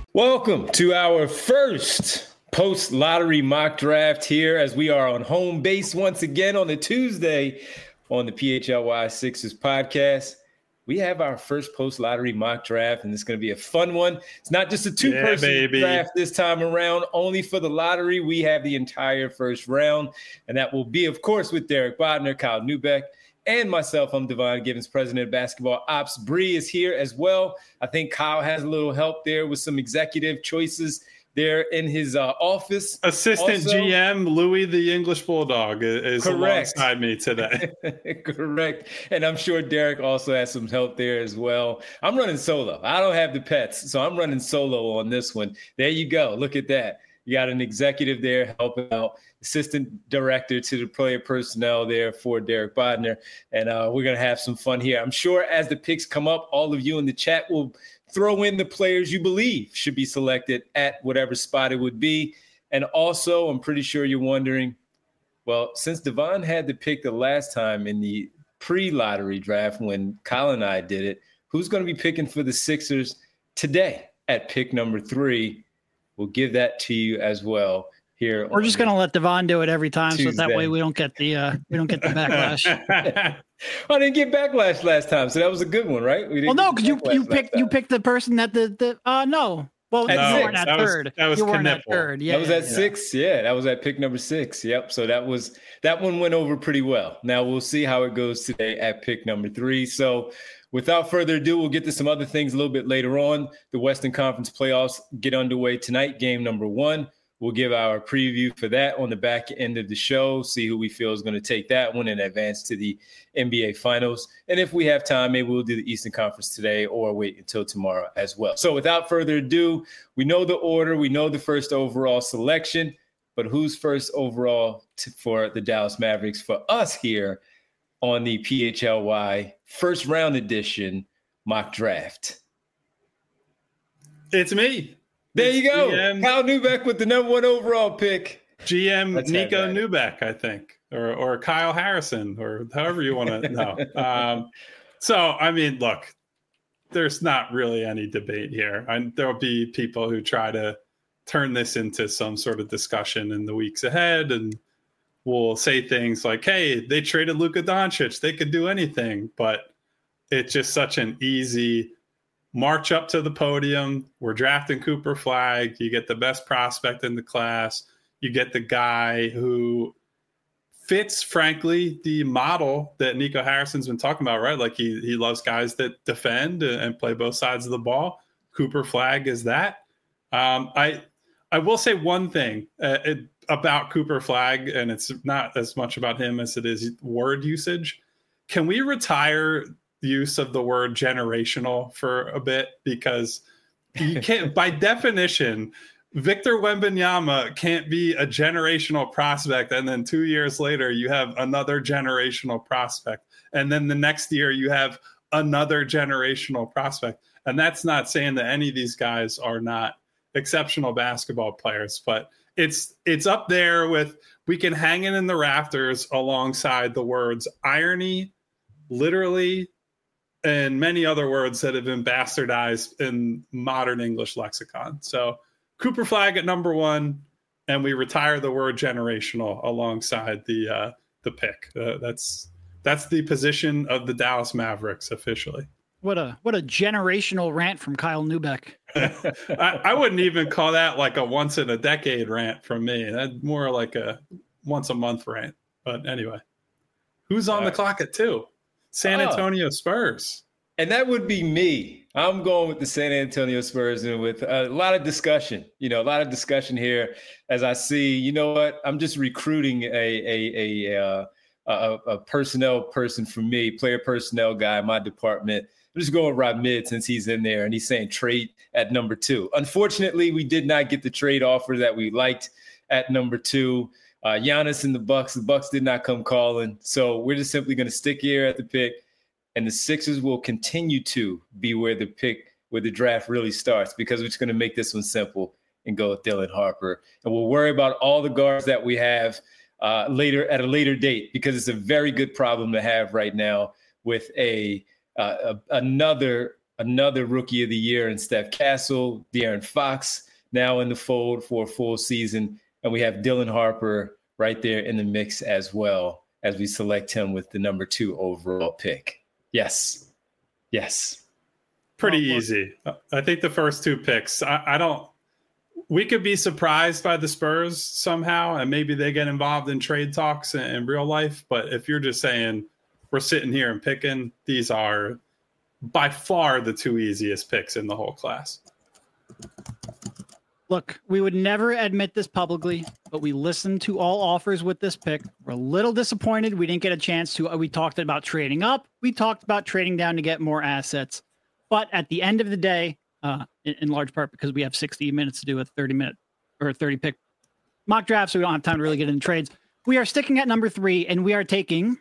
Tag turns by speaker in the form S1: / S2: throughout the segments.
S1: Welcome to our first post-lottery mock draft here as we are on home base once again on the Tuesday on the PHLY Sixers podcast. We have our first post-lottery mock draft, and it's going to be a fun one. It's not just a two-person draft this time around, only for the lottery. We have the entire first round, and that will be, of course, with Derek Bodner, Kyle Neubeck, and myself. I'm Devon Givens, president of basketball ops. Bree is here as well. I think Kyle has a little help there with some executive choices there in his office.
S2: Assistant also, GM Louis the English Bulldog is alongside me today.
S1: Correct. And I'm sure Derek also has some help there as well. I'm running solo. I don't have the pets, so I'm running solo on this one. There you go. Look at that. You got an executive there helping out, assistant director to the player personnel there for Derek Bodner. And we're going to have some fun here. I'm sure as the picks come up, all of you in the chat will throw in the players you believe should be selected at whatever spot it would be. And also, I'm pretty sure you're wondering, well, since Devon had the pick the last time in the pre-lottery draft when Kyle and I did it, who's going to be picking for the Sixers today at pick number 3? We'll give that to you as well here.
S3: We're just going to let Devon do it every time, Tuesday. So that way we don't get the backlash.
S1: I didn't get backlash last time, so that was a good one, right?
S3: Well, no, because you picked the person that no. Well, you weren't at third. You weren't at third. Yeah,
S1: that was at 6. Yeah, that was at pick number 6. Yep. So that one went over pretty well. Now we'll see how it goes today at pick number 3. So without further ado, we'll get to some other things a little bit later on. The Western Conference playoffs get underway tonight, game number 1. We'll give our preview for that on the back end of the show, see who we feel is going to take that one and advance to the NBA Finals. And if we have time, maybe we'll do the Eastern Conference today or wait until tomorrow as well. So without further ado, we know the order. We know the first overall selection. But who's first overall for the Dallas Mavericks for us here on the PHLY first round edition mock draft?
S2: It's me.
S1: There you go. Kyle Neubeck with the number 1 overall pick.
S2: GM Nico Neubeck, I think, or Kyle Harrison, or however you want to know. So, I mean, look, there's not really any debate here. And there'll be people who try to turn this into some sort of discussion in the weeks ahead, and will say things like, hey, they traded Luka Doncic. They could do anything. But it's just such an easy march up to the podium. We're drafting Cooper Flagg. You get the best prospect in the class. You get the guy who fits, frankly, the model that Nico Harrison's been talking about, right? Like he loves guys that defend and play both sides of the ball. Cooper Flagg is that. I will say one thing about Cooper Flagg, and it's not as much about him as it is word usage. Can we retire use of the word generational for a bit? Because you can't, by definition, Victor Wembanyama can't be a generational prospect, and then 2 years later you have another generational prospect, and then the next year you have another generational prospect. And that's not saying that any of these guys are not exceptional basketball players, but it's up there with, we can hang it in the rafters alongside the words irony, literally, and many other words that have been bastardized in modern English lexicon. So Cooper Flagg at number 1, and we retire the word generational alongside the pick. That's the position of the Dallas Mavericks officially.
S3: What a generational rant from Kyle Neubeck.
S2: I wouldn't even call that like a once in a decade rant from me. That's more like a once a month rant. But anyway, who's on the clock at 2? San Antonio Spurs.
S1: And that would be me. I'm going with the San Antonio Spurs, and with a lot of discussion, here as I see, you know what, I'm just recruiting a personnel person for me, player personnel guy in my department. I'm just going right mid since he's in there, and he's saying trade at number 2. Unfortunately, we did not get the trade offer that we liked at number 2. Giannis and the Bucks did not come calling. So we're just simply going to stick here at the pick, and the Sixers will continue to be where the draft really starts, because we're just going to make this one simple and go with Dylan Harper. And we'll worry about all the guards that we have later at a later date, because it's a very good problem to have right now with another another rookie of the year in Steph Castle, De'Aaron Fox now in the fold for a full season. And we have Dylan Harper right there in the mix as well as we select him with the number 2 overall pick. Yes.
S2: Pretty easy. I think the first 2 picks, we could be surprised by the Spurs somehow, and maybe they get involved in trade talks in real life. But if you're just saying we're sitting here and picking, these are by far the 2 easiest picks in the whole class.
S3: Look, we would never admit this publicly, but we listened to all offers with this pick. We're a little disappointed we didn't get a chance to. We talked about trading up. We talked about trading down to get more assets. But at the end of the day, in large part because we have 60 minutes to do a 30-minute or a 30-pick mock draft, so we don't have time to really get into trades. We are sticking at number 3, and we are taking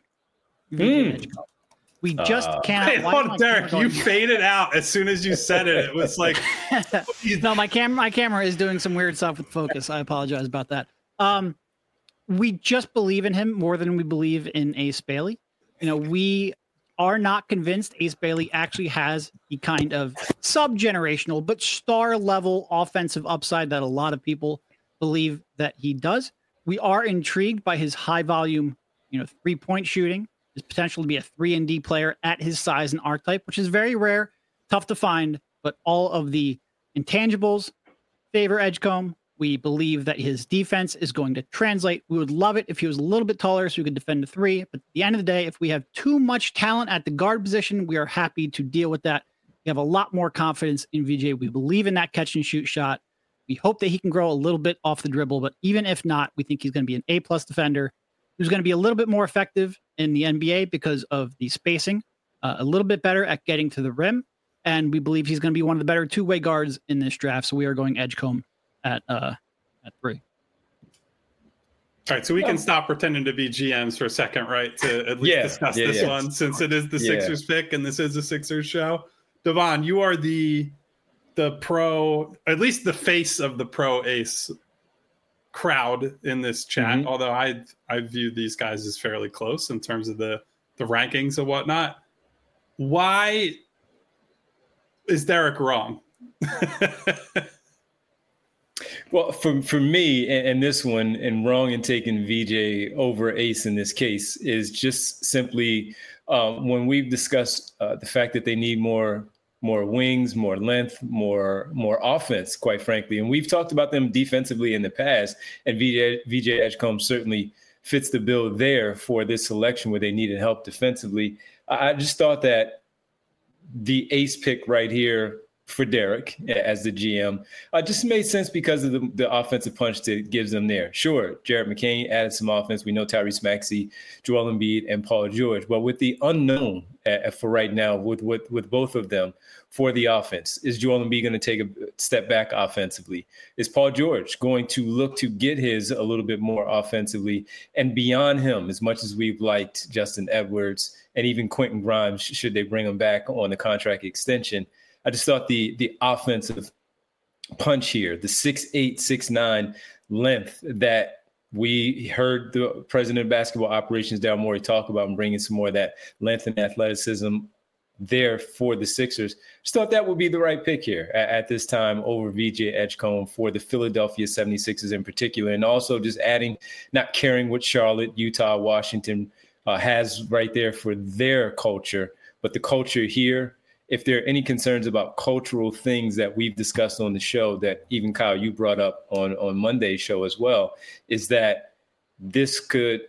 S3: We just cannot.
S2: Hey, hold on, Derek, you faded out as soon as you said it. It was like,
S3: no, my camera is doing some weird stuff with focus. I apologize about that. We just believe in him more than we believe in Ace Bailey. We are not convinced Ace Bailey actually has the kind of sub-generational but star level offensive upside that a lot of people believe that he does. We are intrigued by his high volume, 3-point shooting, his potential to be a 3-and-D player at his size and archetype, which is very rare, tough to find, but all of the intangibles favor Edgecombe. We believe that his defense is going to translate. We would love it if he was a little bit taller so we could defend a 3. But at the end of the day, if we have too much talent at the guard position, we are happy to deal with that. We have a lot more confidence in VJ. We believe in that catch and shoot shot. We hope that he can grow a little bit off the dribble, but even if not, we think he's going to be an A+ defender who's going to be a little bit more effective in the NBA because of the spacing, a little bit better at getting to the rim. And we believe he's going to be one of the better two-way guards in this draft. So we are going Edgecombe at 3.
S2: All right, so we can stop pretending to be GMs for a second, right? To at least discuss this one, since it is the Sixers pick and this is a Sixers show. Devon, you are the pro, at least the face of the pro Ace crowd in this chat. Although I view these guys as fairly close in terms of the rankings and whatnot. Why is Derek wrong?
S1: Well, for me, and this one, and wrong in taking VJ over Ace in this case, is just simply when we've discussed the fact that they need more wings, more length, more offense, quite frankly. And we've talked about them defensively in the past, and VJ Edgecombe certainly fits the bill there for this selection where they needed help defensively. I just thought that the Ace pick right here for Derek as the GM just made sense because of the offensive punch that it gives them there. Sure, Jared McCain added some offense. We know Tyrese Maxey, Joel Embiid, and Paul George. But with the unknown for right now, with both of them for the offense, is Joel Embiid going to take a step back offensively? Is Paul George going to look to get his a little bit more offensively? And beyond him, as much as we've liked Justin Edwards and even Quentin Grimes, should they bring him back on the contract extension, I just thought the offensive punch here, the 6'8", 6'9" length that we heard the president of basketball operations, Daryl Morey, talk about, and bringing some more of that length and athleticism there for the Sixers. Just thought that would be the right pick here at this time over VJ Edgecombe for the Philadelphia 76ers in particular. And also just adding, not caring what Charlotte, Utah, Washington has right there for their culture, but the culture here. If there are any concerns about cultural things that we've discussed on the show that even Kyle, you brought up on Monday's show as well, is that this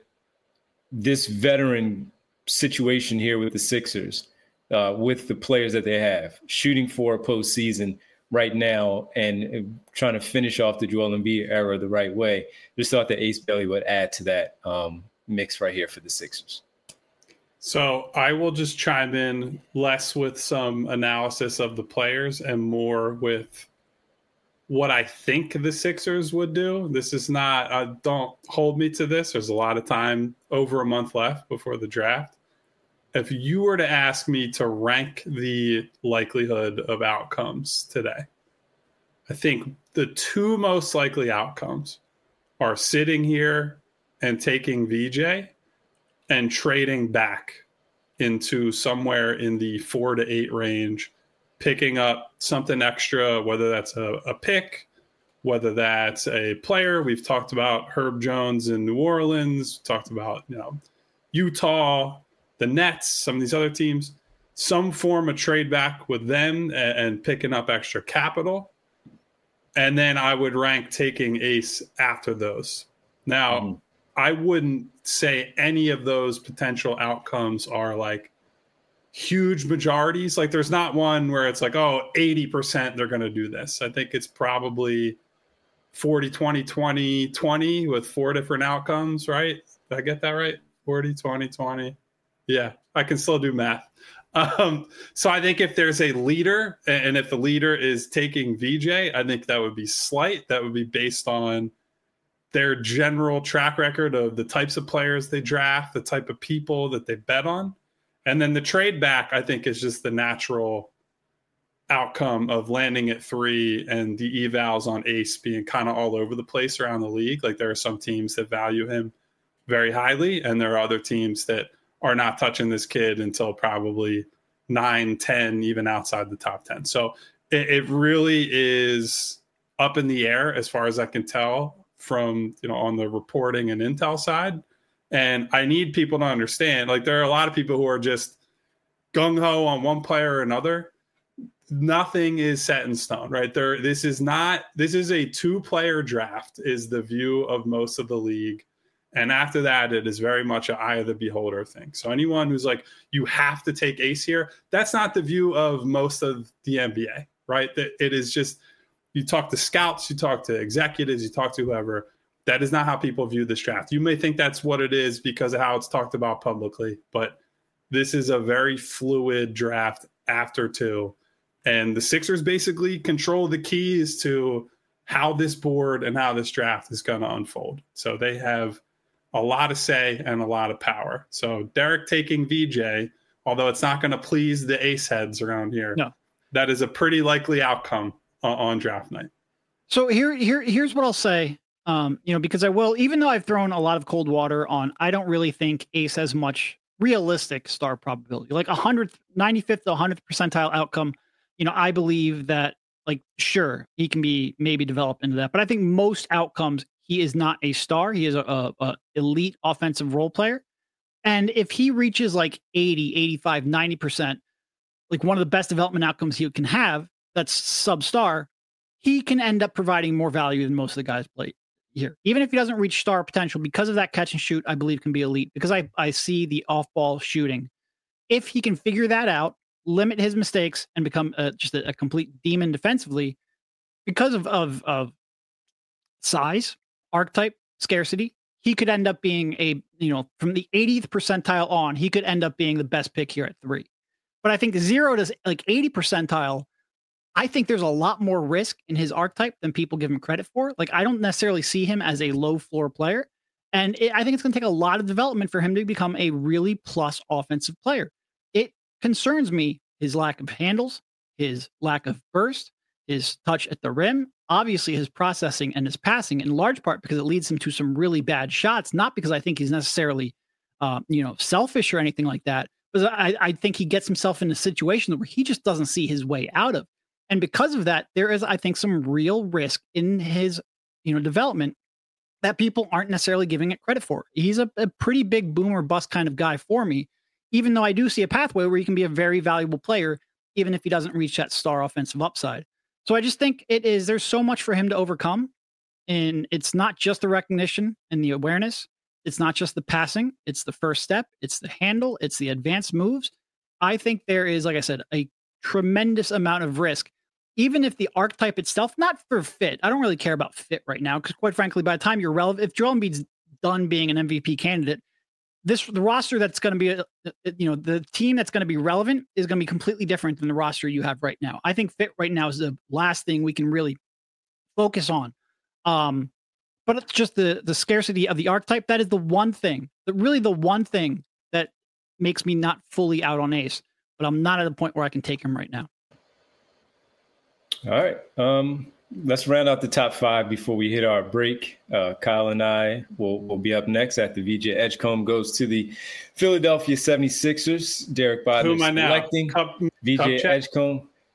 S1: veteran situation here with the Sixers, with the players that they have, shooting for a postseason right now and trying to finish off the Joel Embiid era the right way, just thought that Ace Bailey would add to that mix right here for the Sixers.
S2: So I will just chime in less with some analysis of the players and more with what I think the Sixers would do. This is not, don't hold me to this. There's a lot of time, over a month left before the draft. If you were to ask me to rank the likelihood of outcomes today, I think the 2 most likely outcomes are sitting here and taking VJ and trading back into somewhere in the 4 to 8 range picking up something extra, whether that's a pick, whether that's a player. We've talked about Herb Jones in New Orleans, talked about, Utah, the Nets, some of these other teams, some form of trade back with them and picking up extra capital. And then I would rank taking Ace after those. Now, I wouldn't say any of those potential outcomes are like huge majorities. Like there's not one where it's like, 80% they're going to do this. I think it's probably 40, 20, 20, 20 with 4 different outcomes, right? Did I get that right? 40, 20, 20. Yeah, I can still do math. So I think if there's a leader, and if the leader is taking VJ, I think that would be slight. That would be based on their general track record of the types of players they draft, the type of people that they bet on. And then the trade back, I think, is just the natural outcome of landing at 3 and the evals on Ace being kind of all over the place around the league. Like there are some teams that value him very highly, and there are other teams that are not touching this kid until probably 9, 10, even outside the top 10. So it really is up in the air as far as I can tell from, on the reporting and intel side. And I need people to understand, like there are a lot of people who are just gung-ho on one player or another. Nothing is set in stone, right? This is a 2-player draft is the view of most of the league. And after that, it is very much an eye of the beholder thing. So anyone who's like, you have to take Ace here, that's not the view of most of the NBA, right? It is just, you talk to scouts, you talk to executives, you talk to whoever. That is not how people view this draft. You may think that's what it is because of how it's talked about publicly, but this is a very fluid draft after 2. And the Sixers basically control the keys to how this board and how this draft is going to unfold. So they have a lot of say and a lot of power. So Derek taking VJ, although it's not going to please the Ace heads around here, no, that is a pretty likely outcome on draft night.
S3: So here's what I'll say. Because I will, even though I've thrown a lot of cold water on, I don't really think Ace has much realistic star probability. Like 95th to 100th percentile outcome. I believe that, like, sure, he can be maybe developed into that, but I think most outcomes, he is not a star. He is a elite offensive role player. And if he reaches like 80, 85, 90%, like one of the best development outcomes he can have, that's sub-star, he can end up providing more value than most of the guys play here. Even if he doesn't reach star potential, because of that catch and shoot, I believe can be elite, because I see the off-ball shooting. If he can figure that out, limit his mistakes, and become just a complete demon defensively, because of size, archetype, scarcity, he could end up being from the 80th percentile on, he could end up being the best pick here at 3. But I think 0 to like 80 percentile, I think there's a lot more risk in his archetype than people give him credit for. Like, I don't necessarily see him as a low floor player. And I think it's going to take a lot of development for him to become a really plus offensive player. It concerns me, his lack of handles, his lack of burst, his touch at the rim, obviously his processing and his passing, in large part because it leads him to some really bad shots, not because I think he's necessarily, selfish or anything like that, but I think he gets himself in a situation where he just doesn't see his way out of. And because of that, there is, I think, some real risk in his, development that people aren't necessarily giving it credit for. He's a pretty big boom or bust kind of guy for me, even though I do see a pathway where he can be a very valuable player, even if he doesn't reach that star offensive upside. So I just think there's so much for him to overcome. And it's not just the recognition and the awareness. It's not just the passing. It's the first step. It's the handle. It's the advanced moves. I think there is, like I said, a tremendous amount of risk, even if the archetype itself, not for fit. I don't really care about fit right now, because quite frankly, by the time you're relevant, if Joel Embiid's done being an MVP candidate, the roster that's going to be, the team that's going to be relevant is going to be completely different than the roster you have right now. I think fit right now is the last thing we can really focus on. But it's just the scarcity of the archetype. That is the one thing that makes me not fully out on Ace, but I'm not at a point where I can take him right now.
S1: All right. Let's round out the top 5 before we hit our break. Kyle and I will be up next after VJ Edgecombe goes to the Philadelphia 76ers. Derek Bodner selecting VJ Edgecombe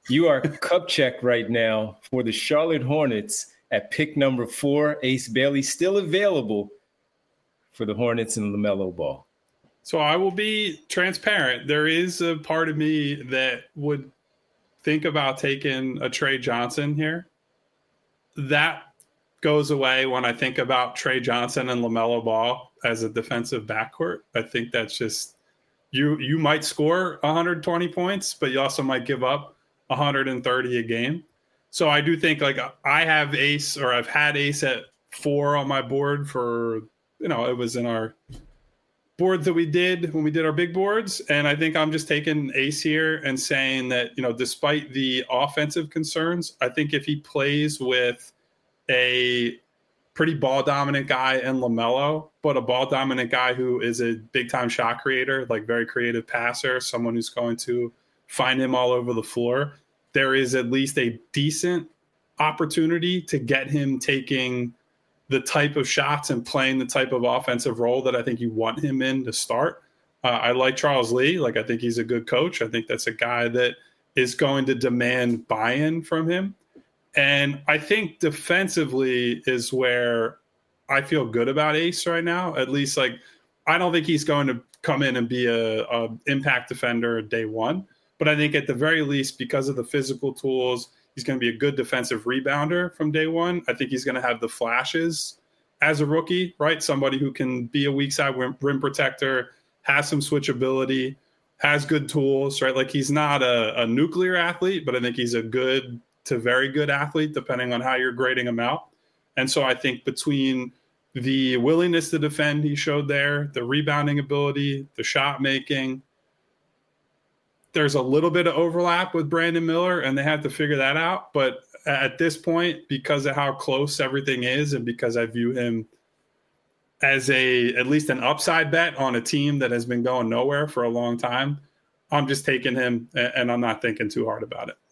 S1: You are cup check right now for the Charlotte Hornets at pick number 4. Ace Bailey still available for the Hornets and LaMelo Ball.
S2: So I will be transparent. There is a part of me that would think about taking a Trey Johnson here. That goes away when I think about Trey Johnson and LaMelo Ball as a defensive backcourt. I think that's just you might score 120 points, but you also might give up 130 a game. So I do think like I have Ace, or I've had Ace at 4 on my board for, it was in our boards that we did when we did our big boards. And I think I'm just taking Ace here and saying that, despite the offensive concerns, I think if he plays with a pretty ball dominant guy in LaMelo, but a ball dominant guy who is a big time shot creator, like very creative passer, someone who's going to find him all over the floor, there is at least a decent opportunity to get him taking the type of shots and playing the type of offensive role that I think you want him in to start. I like Charles Lee. Like, I think he's a good coach. I think that's a guy that is going to demand buy-in from him. And I think defensively is where I feel good about Ace right now. At least, like, I don't think he's going to come in and be a impact defender day one. But I think at the very least, because of the physical tools, he's going to be a good defensive rebounder from day one. I think he's going to have the flashes as a rookie, right? Somebody who can be a weak side rim protector, has some switchability, has good tools, right? Like, he's not a nuclear athlete, but I think he's a good to very good athlete, depending on how you're grading him out. And so I think between the willingness to defend he showed there, the rebounding ability, the shot making, there's a little bit of overlap with Brandon Miller, and they have to figure that out. But at this point, because of how close everything is, and because I view him as at least an upside bet on a team that has been going nowhere for a long time, I'm just taking him, and I'm not thinking too hard about it.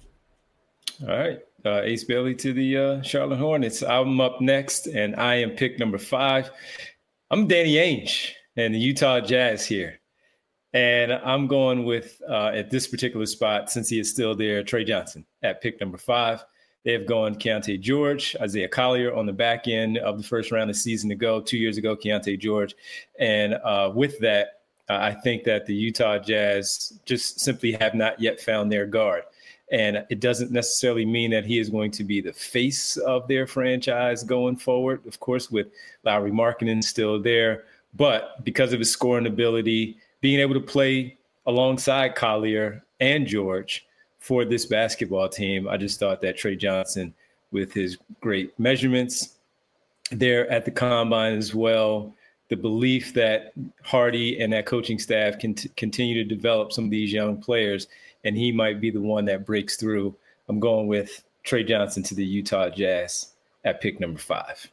S1: All right. Ace Bailey to the Charlotte Hornets. I'm up next, and I am pick number 5. I'm Danny Ainge and the Utah Jazz here. And I'm going with, at this particular spot, since he is still there, Trey Johnson at pick number 5. They have gone Keontae George, Isaiah Collier on the back end of the first round of the season to go. 2 years ago, Keontae George. And with that, I think that the Utah Jazz just simply have not yet found their guard. And it doesn't necessarily mean that he is going to be the face of their franchise going forward, of course, with Lauri Markkanen still there. But because of his scoring ability, being able to play alongside Collier and George for this basketball team, I just thought that Trey Johnson, with his great measurements there at the combine as well, the belief that Hardy and that coaching staff can continue to develop some of these young players, and he might be the one that breaks through. I'm going with Trey Johnson to the Utah Jazz at pick number 5.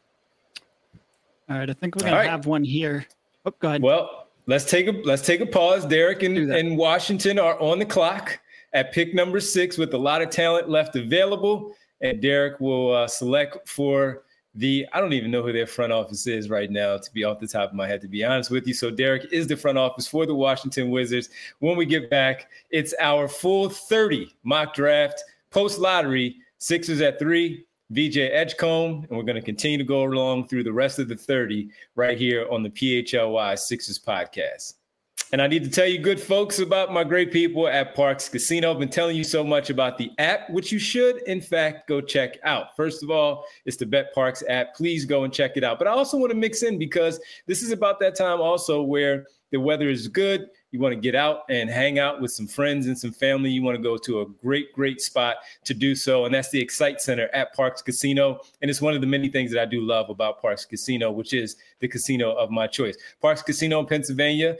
S3: All right, I think we're going to have one here. Oh, go ahead.
S1: Well, let's take a pause. Derek and Washington are on the clock at pick number 6 with a lot of talent left available. And Derek will select for I don't even know who their front office is right now, to be off the top of my head, to be honest with you. So Derek is the front office for the Washington Wizards. When we get back, it's our full 30 mock draft post-lottery. Sixers at 3, VJ Edgecombe, and we're going to continue to go along through the rest of the 30 right here on the PHLY Sixers podcast. And I need to tell you, good folks, about my great people at Parx Casino. I've been telling you so much about the app, which you should, in fact, go check out. First of all, it's the BetParx app. Please go and check it out. But I also want to mix in, because this is about that time also where the weather is good. You want to get out and hang out with some friends and some family. You want to go to a great, great spot to do so. And that's the Excite Center at Parx Casino. And it's one of the many things that I do love about Parx Casino, which is the casino of my choice. Parx Casino in Pennsylvania,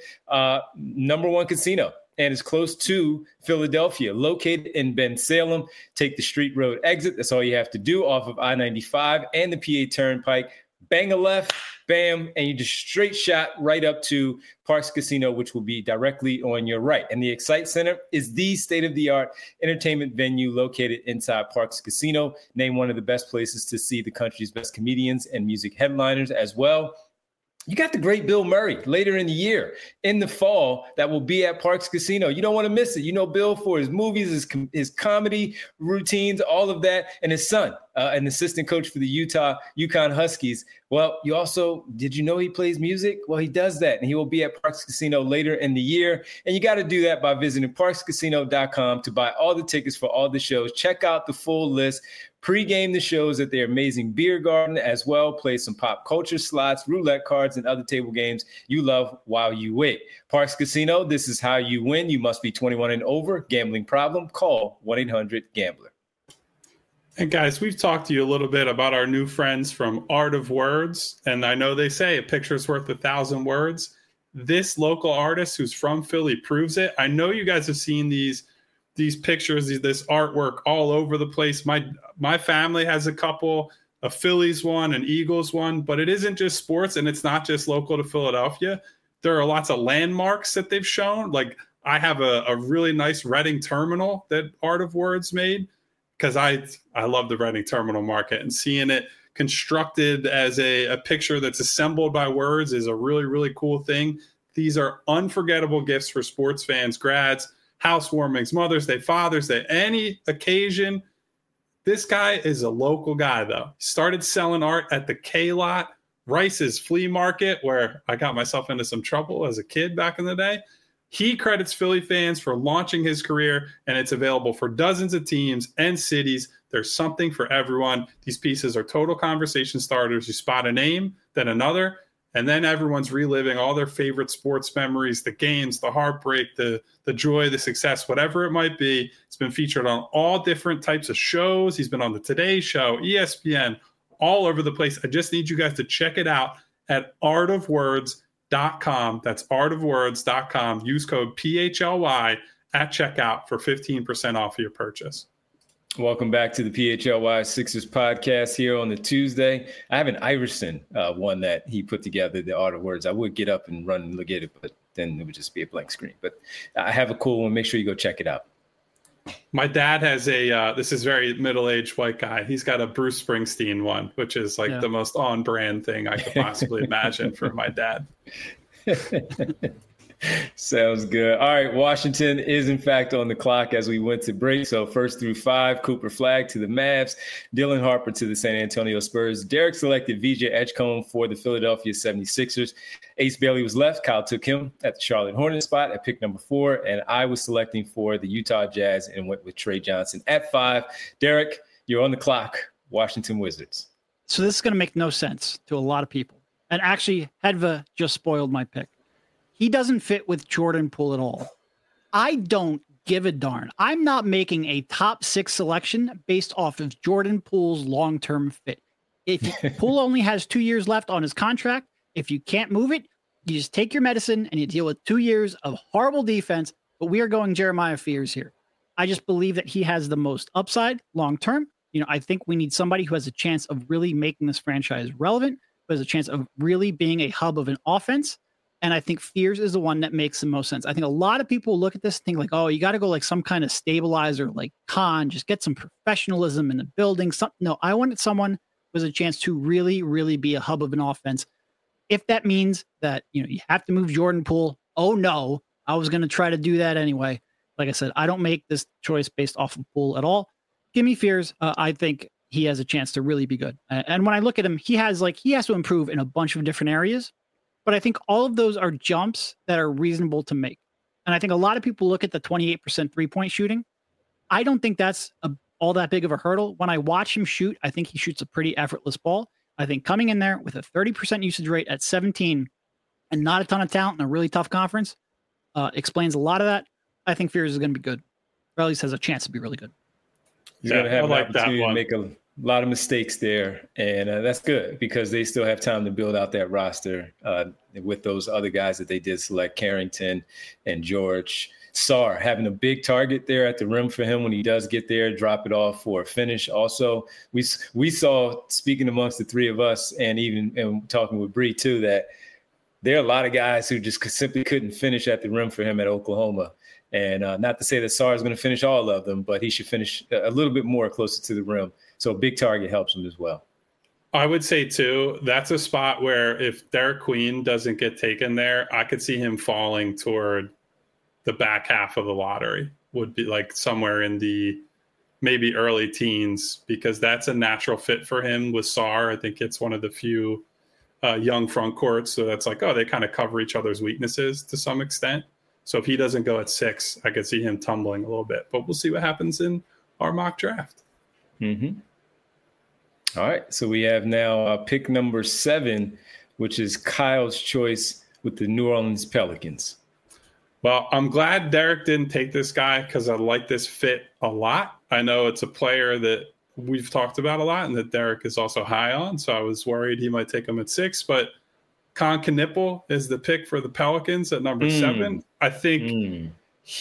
S1: #1 casino. And it's close to Philadelphia, located in Bensalem. Take the Street Road exit. That's all you have to do off of I-95 and the PA Turnpike. Bang a left, bam, and you just straight shot right up to Parx Casino, which will be directly on your right. And the Excite Center is the state-of-the-art entertainment venue located inside Parx Casino, named one of the best places to see the country's best comedians and music headliners as well. You got the great Bill Murray later in the year, in the fall, that will be at Parx Casino. You don't want to miss it. You know Bill for his movies, his comedy routines, all of that, and his son, an assistant coach for the UConn Huskies. Well, did you know he plays music? Well, he does that, and he will be at Parx Casino later in the year. And you got to do that by visiting parxcasino.com to buy all the tickets for all the shows. Check out the full list. Pre-game the shows at their amazing beer garden as well. Play some pop culture slots, roulette cards, and other table games you love while you wait. Parx Casino, this is how you win. You must be 21 and over. Gambling problem? Call 1-800-GAMBLER.
S2: And guys, we've talked to you a little bit about our new friends from Art of Words. And I know they say a picture's worth 1,000 words. This local artist who's from Philly proves it. I know you guys have seen these pictures, this artwork all over the place. My family has a couple, a Phillies one, an Eagles one, but it isn't just sports, and it's not just local to Philadelphia. There are lots of landmarks that they've shown. Like I have a really nice Reading terminal that Art of Words made, because I love the Reading terminal market, and seeing it constructed as a picture that's assembled by words is a really, really cool thing. These are unforgettable gifts for sports fans, grads, housewarmings, Mother's Day, Father's Day, any occasion. This guy is a local guy, though. He started selling art at the K-Lot, Rice's flea market, where I got myself into some trouble as a kid back in the day. He credits Philly fans for launching his career, and it's available for dozens of teams and cities. There's something for everyone. These pieces are total conversation starters. You spot a name, then another, and then everyone's reliving all their favorite sports memories, the games, the heartbreak, the joy, the success, whatever it might be. It's been featured on all different types of shows. He's been on the Today Show, ESPN, all over the place. I just need you guys to check it out at artofwords.com. That's artofwords.com. Use code PHLY at checkout for 15% off your purchase.
S1: Welcome back to the PHLY Sixers podcast here on the Tuesday. I have an Iverson one that he put together, the Art of Words. I would get up and run and look at it, but then it would just be a blank screen. But I have a cool one. Make sure you go check it out.
S2: My dad has this is very middle-aged white guy. He's got a Bruce Springsteen one, which is the most on-brand thing I could possibly imagine for my dad.
S1: Sounds good. All right, Washington is in fact on the clock as we went to break. So 1st through 5, Cooper Flagg to the Mavs, Dylan Harper to the San Antonio Spurs. Derek selected VJ Edgecombe for the Philadelphia 76ers. Ace Bailey was left. Kyle took him at the Charlotte Hornets spot at pick number 4. And I was selecting for the Utah Jazz and went with Trey Johnson at 5. Derek, you're on the clock. Washington Wizards.
S3: So this is going to make no sense to a lot of people. And actually, Hedva just spoiled my pick. He doesn't fit with Jordan Poole at all. I don't give a darn. I'm not making a top 6 selection based off of Jordan Poole's long-term fit. If Poole only has 2 years left on his contract, if you can't move it, you just take your medicine and you deal with 2 years of horrible defense. But we are going Jeremiah Fears here. I just believe that he has the most upside long-term. I think we need somebody who has a chance of really making this franchise relevant, who has a chance of really being a hub of an offense. And I think Fears is the one that makes the most sense. I think a lot of people look at this and think like, oh, you got to go like some kind of stabilizer, like Khan, just get some professionalism in the building. No, I wanted someone who has a chance to really, really be a hub of an offense. If that means that, you have to move Jordan Poole, oh no, I was going to try to do that anyway. Like I said, I don't make this choice based off of Poole at all. Give me Fears. I think he has a chance to really be good. And when I look at him, he has to improve in a bunch of different areas. But I think all of those are jumps that are reasonable to make. And I think a lot of people look at the 28% three-point shooting. I don't think that's all that big of a hurdle. When I watch him shoot, I think he shoots a pretty effortless ball. I think coming in there with a 30% usage rate at 17 and not a ton of talent in a really tough conference explains a lot of that. I think Fears is going to be good. Or at least has a chance to be really good.
S1: He's going to have an opportunity to make a lot of mistakes there, and that's good because they still have time to build out that roster with those other guys that they did select, Carrington and George. Sarr having a big target there at the rim for him when he does get there, drop it off for a finish. Also, we saw, speaking amongst the three of us and talking with Bree too, that there are a lot of guys who just simply couldn't finish at the rim for him at Oklahoma. And not to say that Sarr is going to finish all of them, but he should finish a little bit more closer to the rim. So a big target helps him as well.
S2: I would say too, that's a spot where if Derek Queen doesn't get taken there, I could see him falling toward the back half of the lottery, would be like somewhere in the maybe early teens, because that's a natural fit for him with Sarr. I think it's one of the few young front courts. So that's like, oh, they kind of cover each other's weaknesses to some extent. So if he doesn't go at 6, I could see him tumbling a little bit, but we'll see what happens in our mock draft.
S1: Mm-hmm. All right. So we have now pick number 7, which is Kyle's choice with the New Orleans Pelicans.
S2: Well, I'm glad Derek didn't take this guy because I like this fit a lot. I know it's a player that we've talked about a lot and that Derek is also high on. So I was worried he might take him at 6, but Con Knipple is the pick for the Pelicans at number 7. I think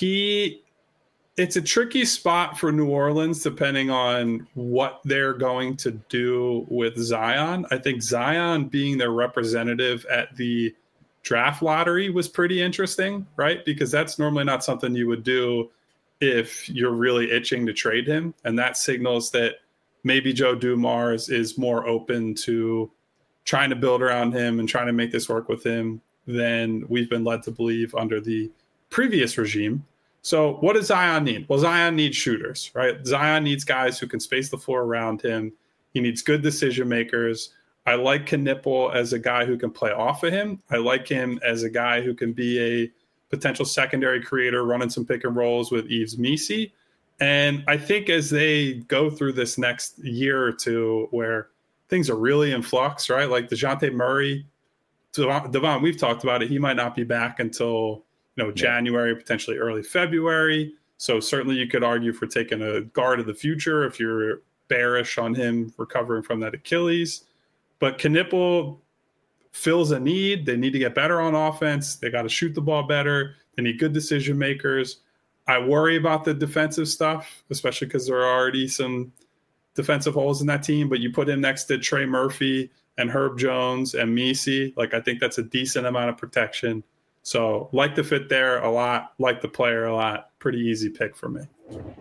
S2: it's a tricky spot for New Orleans depending on what they're going to do with Zion. I think Zion being their representative at the draft lottery was pretty interesting, right? Because that's normally not something you would do if you're really itching to trade him. And that signals that maybe Joe Dumars is more open to trying to build around him and trying to make this work with him than we've been led to believe under the previous regime. So what does Zion need? Well, Zion needs shooters, right? Zion needs guys who can space the floor around him. He needs good decision makers. I like Knipple as a guy who can play off of him. I like him as a guy who can be a potential secondary creator, running some pick and rolls with Yves Missi. And I think as they go through this next year or two where things are really in flux, right? Like DeJounte Murray, Devon, we've talked about it. He might not be back until January, potentially early February. So certainly you could argue for taking a guard of the future if you're bearish on him recovering from that Achilles. But Knipple fills a need. They need to get better on offense. They got to shoot the ball better. They need good decision makers. I worry about the defensive stuff, especially because there are already some defensive holes in that team. But you put him next to Trey Murphy and Herb Jones and Missi. Like, I think that's a decent amount of protection. So like the fit there a lot, like the player a lot. Pretty easy pick for me.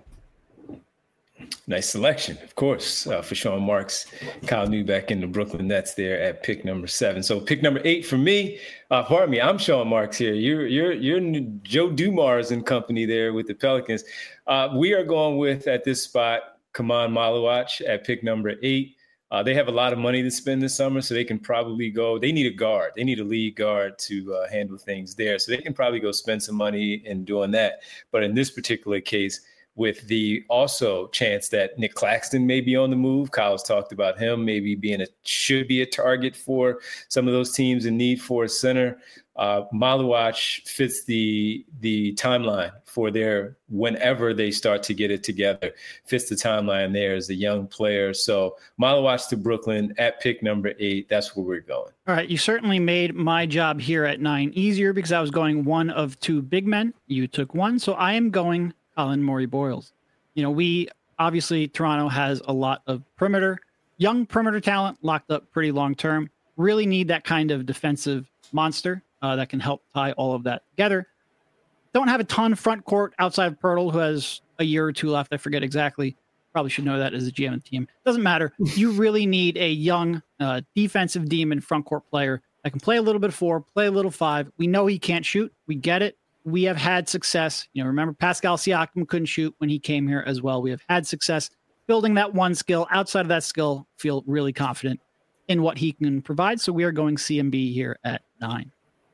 S1: Nice selection, of course, for Sean Marks. Kyle Neubeck in the Brooklyn Nets there at pick number 7. So pick number 8 for me. Pardon me, I'm Sean Marks here. You're Joe Dumars and company there with the Pelicans. We are going with, at this spot, Kaman Maluach at pick number 8. They have a lot of money to spend this summer, so they can probably go. They need a guard. They need a lead guard to handle things there. So they can probably go spend some money in doing that. But in this particular case, with the also chance that Nick Claxton may be on the move. Kyle's talked about him maybe should be a target for some of those teams in need for a center. Maluach fits the timeline for their whenever they start to get it together, fits the timeline there as a young player. So Maluach to Brooklyn at pick number 8. That's where we're going.
S3: All right. You certainly made my job here at 9 easier because I was going one of 2 big men. You took one. So I am going Colin Morey-Boyles. We obviously Toronto has a lot of young perimeter talent locked up pretty long term. Really need that kind of defensive monster that can help tie all of that together. Don't have a ton front court outside of Pirtle, who has a year or 2 left. I forget exactly. Probably should know that as a GM of the team. Doesn't matter. You really need a young defensive demon front court player that can play a little bit of 4, play a little 5. We know he can't shoot. We get it. We have had success. Remember Pascal Siakam couldn't shoot when he came here as well. We have had success building that one skill. Outside of that skill, feel really confident in what he can provide. So we are going CMB here at 9.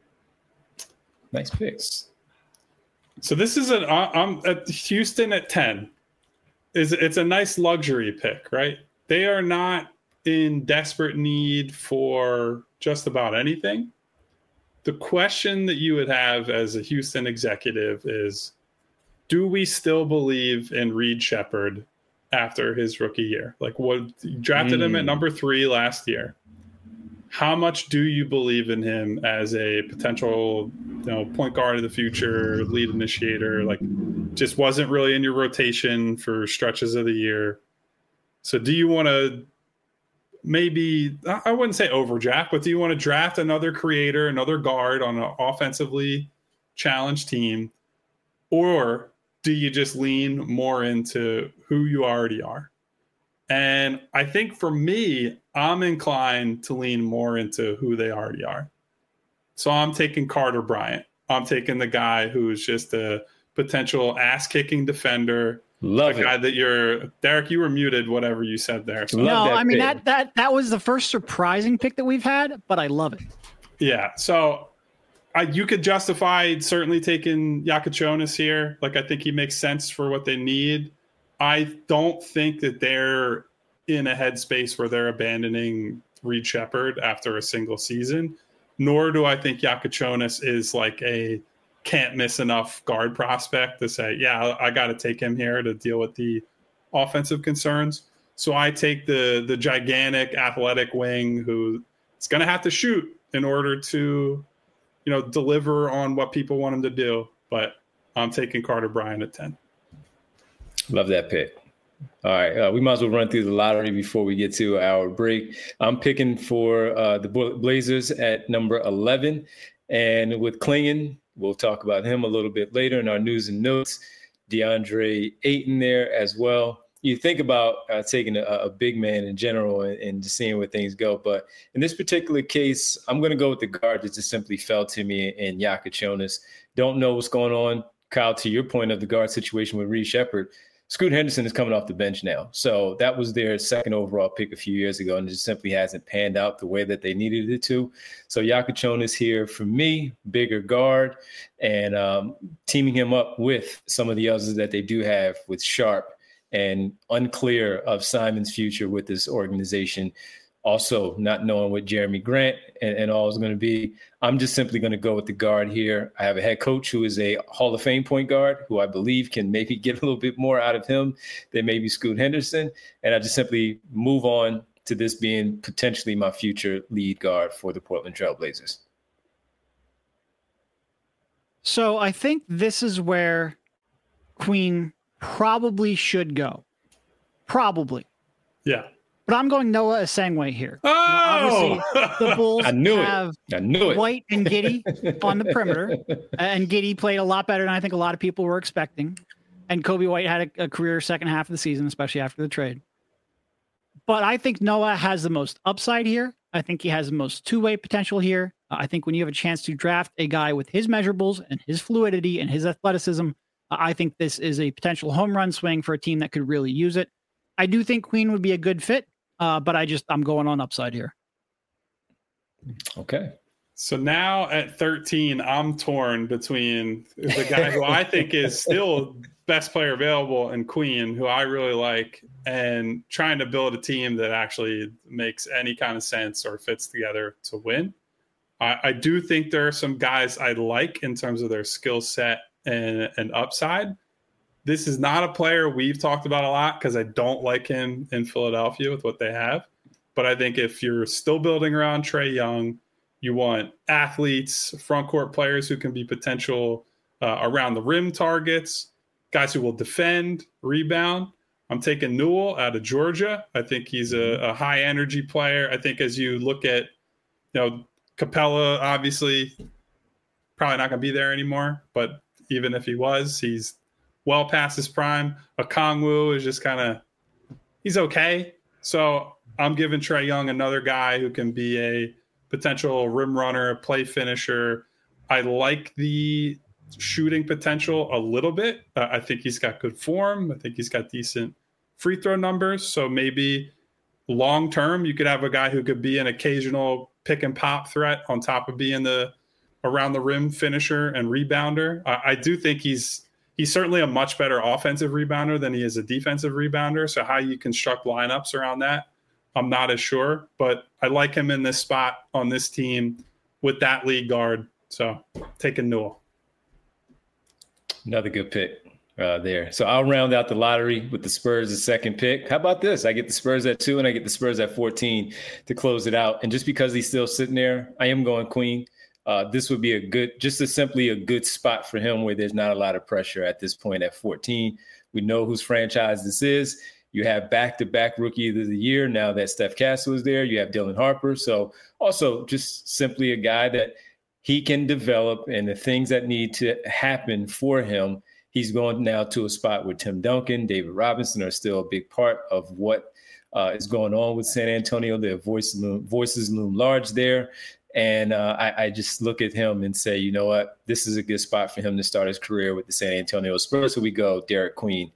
S1: Nice picks.
S2: So this is I'm at Houston at 10. It's a nice luxury pick, right? They are not in desperate need for just about anything. The question that you would have as a Houston executive is, do we still believe in Reed Sheppard after his rookie year? Like, what drafted him at number 3 last year. How much do you believe in him as a potential, point guard of the future, lead initiator? Like, just wasn't really in your rotation for stretches of the year. So do you want to maybe, I wouldn't say overdraft, but do you want to draft another creator, another guard on an offensively challenged team? Or do you just lean more into who you already are? And I think for me, I'm inclined to lean more into who they already are. So I'm taking Carter Bryant. I'm taking the guy who's just a potential ass-kicking defender.
S1: Love
S2: a guy that Derek, you were muted, whatever you said there. So
S3: no, I mean, that was the first surprising pick that we've had, but I love it.
S2: Yeah. So you could justify certainly taking Yakachonis here. Like, I think he makes sense for what they need. I don't think that they're in a headspace where they're abandoning Reed Sheppard after a single season, nor do I think Yakachonis is like a can't miss enough guard prospect to say, yeah, I got to take him here to deal with the offensive concerns. So I take the gigantic athletic wing who is going to have to shoot in order to, deliver on what people want him to do. But I'm taking Carter Bryant at 10.
S1: Love that pick. All right. We might as well run through the lottery before we get to our break. I'm picking for the Blazers at number 11. And with Clingan, we'll talk about him a little bit later in our news and notes. DeAndre Ayton there as well. You think about taking a big man in general and just seeing where things go. But in this particular case, I'm going to go with the guard that just simply fell to me in Yakachonis. Don't know what's going on. Kyle, to your point of the guard situation with Reed Sheppard, Scoot Henderson is coming off the bench now. So that was their second overall pick a few years ago, and it just simply hasn't panned out the way that they needed it to. So Yakachonis here for me, bigger guard, and teaming him up with some of the others that they do have with Sharp, and unclear of Simon's future with this organization. Also not knowing what Jeremy Grant and all is going to be. I'm just simply going to go with the guard here. I have a head coach who is a Hall of Fame point guard who I believe can maybe get a little bit more out of him than maybe Scoot Henderson. And I just simply move on to this being potentially my future lead guard for the Portland Trail Blazers.
S3: So I think this is where Queen probably should go. Probably.
S2: Yeah.
S3: But I'm going Noah Asangwe here.
S2: Oh!
S3: Obviously, the Bulls have White and Giddey on the perimeter. And Giddey played a lot better than I think a lot of people were expecting. And Kobe White had a career second half of the season, especially after the trade. But I think Noah has the most upside here. I think he has the most two-way potential here. I think when you have a chance to draft a guy with his measurables and his fluidity and his athleticism, I think this is a potential home run swing for a team that could really use it. I do think Queen would be a good fit. But I'm going on upside here.
S1: Okay.
S2: So now at 13, I'm torn between the guy who I think is still best player available and Queen, who I really like, and trying to build a team that actually makes any kind of sense or fits together to win. I do think there are some guys I like in terms of their skill set and upside. This is not a player we've talked about a lot because I don't like him in Philadelphia with what they have. But I think if you're still building around Trae Young, you want athletes, front court players who can be potential around the rim targets, guys who will defend, rebound. I'm taking Newell out of Georgia. I think he's a high energy player. I think as you look at, Capella, obviously probably not going to be there anymore. But even if he was, he's well past his prime. Okongwu is just he's okay. So I'm giving Trae Young another guy who can be a potential rim runner, play finisher. I like the shooting potential a little bit. I think he's got good form. I think he's got decent free throw numbers. So maybe long term, you could have a guy who could be an occasional pick and pop threat on top of being the around the rim finisher and rebounder. I do think he's certainly a much better offensive rebounder than he is a defensive rebounder. So how you construct lineups around that, I'm not as sure. But I like him in this spot on this team with that lead guard. So taking Newell.
S1: Another good pick there. So I'll round out the lottery with the Spurs the second pick. How about this? I get the Spurs at 2 and I get the Spurs at 14 to close it out. And just because he's still sitting there, I am going Queen. This would be simply a good spot for him where there's not a lot of pressure at this point at 14. We know whose franchise this is. You have back-to-back rookie of the year now that Steph Castle is there. You have Dylan Harper. So also just simply a guy that he can develop, and the things that need to happen for him, he's going now to a spot where Tim Duncan, David Robinson are still a big part of what is going on with San Antonio. Their voices loom large there. And I just look at him and say, you know what, this is a good spot for him to start his career with the San Antonio Spurs. So we go Derek Queen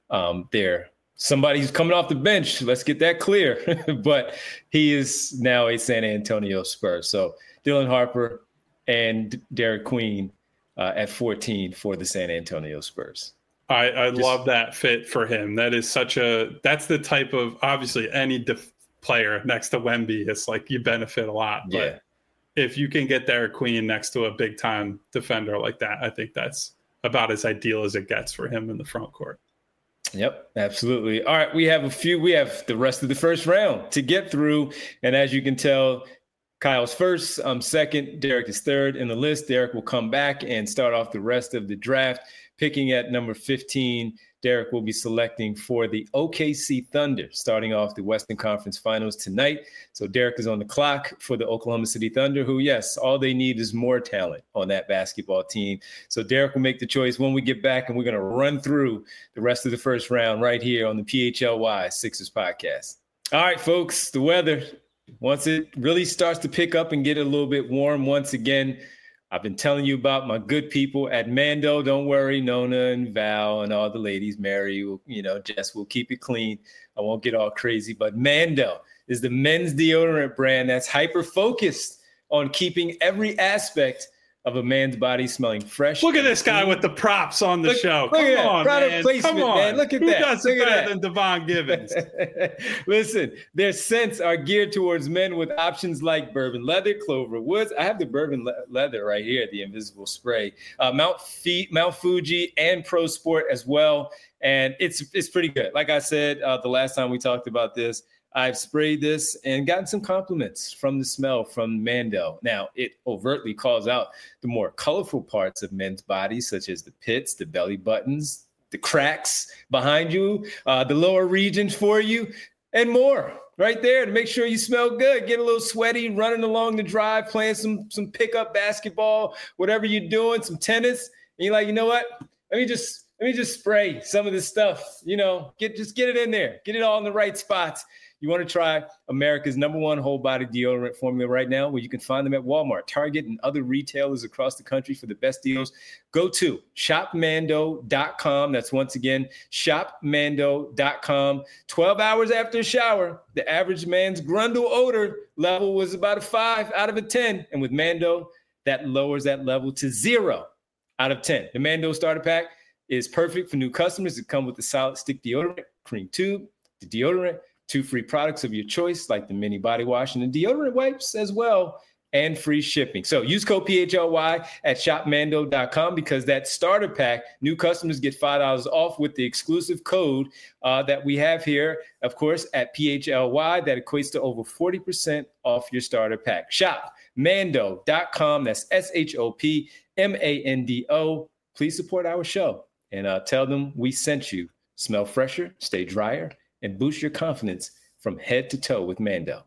S1: there. Somebody who's coming off the bench. Let's get that clear. But he is now a San Antonio Spur. So Dylan Harper and Derek Queen at 14 for the San Antonio Spurs.
S2: I love that fit for him. That's the type of, obviously any player next to Wemby, it's like you benefit a lot. But if you can get Derek Queen next to a big time defender like that, I think that's about as ideal as it gets for him in the front court.
S1: Yep, absolutely. All right, we have the rest of the first round to get through. And as you can tell, Kyle's first, I'm second, Derek is third in the list. Derek will come back and start off the rest of the draft. Picking at number 15, Derek will be selecting for the OKC Thunder, starting off the Western Conference Finals tonight. So Derek is on the clock for the Oklahoma City Thunder, who, yes, all they need is more talent on that basketball team. So Derek will make the choice when we get back, and we're going to run through the rest of the first round right here on the PHLY Sixers podcast. All right, folks, the weather, once it really starts to pick up and get a little bit warm once again, I've been telling you about my good people at Mando. Don't worry, Nona and Val and all the ladies, Mary, Jess will keep it clean. I won't get all crazy, but Mando is the men's deodorant brand that's hyper-focused on keeping every aspect of a man's body smelling fresh.
S2: Look at this guy with the props on the show. Come on, man.
S1: Come on, man. Look at that.
S2: Who does it better than Devon Givens?
S1: Listen, their scents are geared towards men with options like bourbon leather, Clover Woods. I have the bourbon leather right here, the invisible spray. Mount Fuji and Pro Sport as well. And it's pretty good. Like I said, the last time we talked about this, I've sprayed this and gotten some compliments from the smell from Mando. Now, it overtly calls out the more colorful parts of men's bodies, such as the pits, the belly buttons, the cracks behind you, the lower regions for you, and more right there to make sure you smell good. Get a little sweaty, running along the drive, playing some pickup basketball, whatever you're doing, some tennis. And you're like, you know what? Let me just spray some of this stuff, just get it in there, get it all in the right spots. You want to try America's #1 whole body deodorant formula right now, where you can find them at Walmart, Target, and other retailers across the country for the best deals. Go to shopmando.com. That's once again, shopmando.com. 12 hours after a shower, the average man's grundle odor level was about a 5 out of a 10. And with Mando, that lowers that level to 0 out of 10. The Mando starter pack is perfect for new customers. It comes with the solid stick deodorant, cream tube, the deodorant, 2 free products of your choice, like the mini body wash and the deodorant wipes as well, and free shipping. So use code PHLY at shopmando.com, because that starter pack, new customers get $5 off with the exclusive code that we have here, of course, at PHLY. That equates to over 40% off your starter pack. Shopmando.com. That's SHOPMANDO. Please support our show and tell them we sent you. Smell fresher, stay drier, and boost your confidence from head to toe with Mando.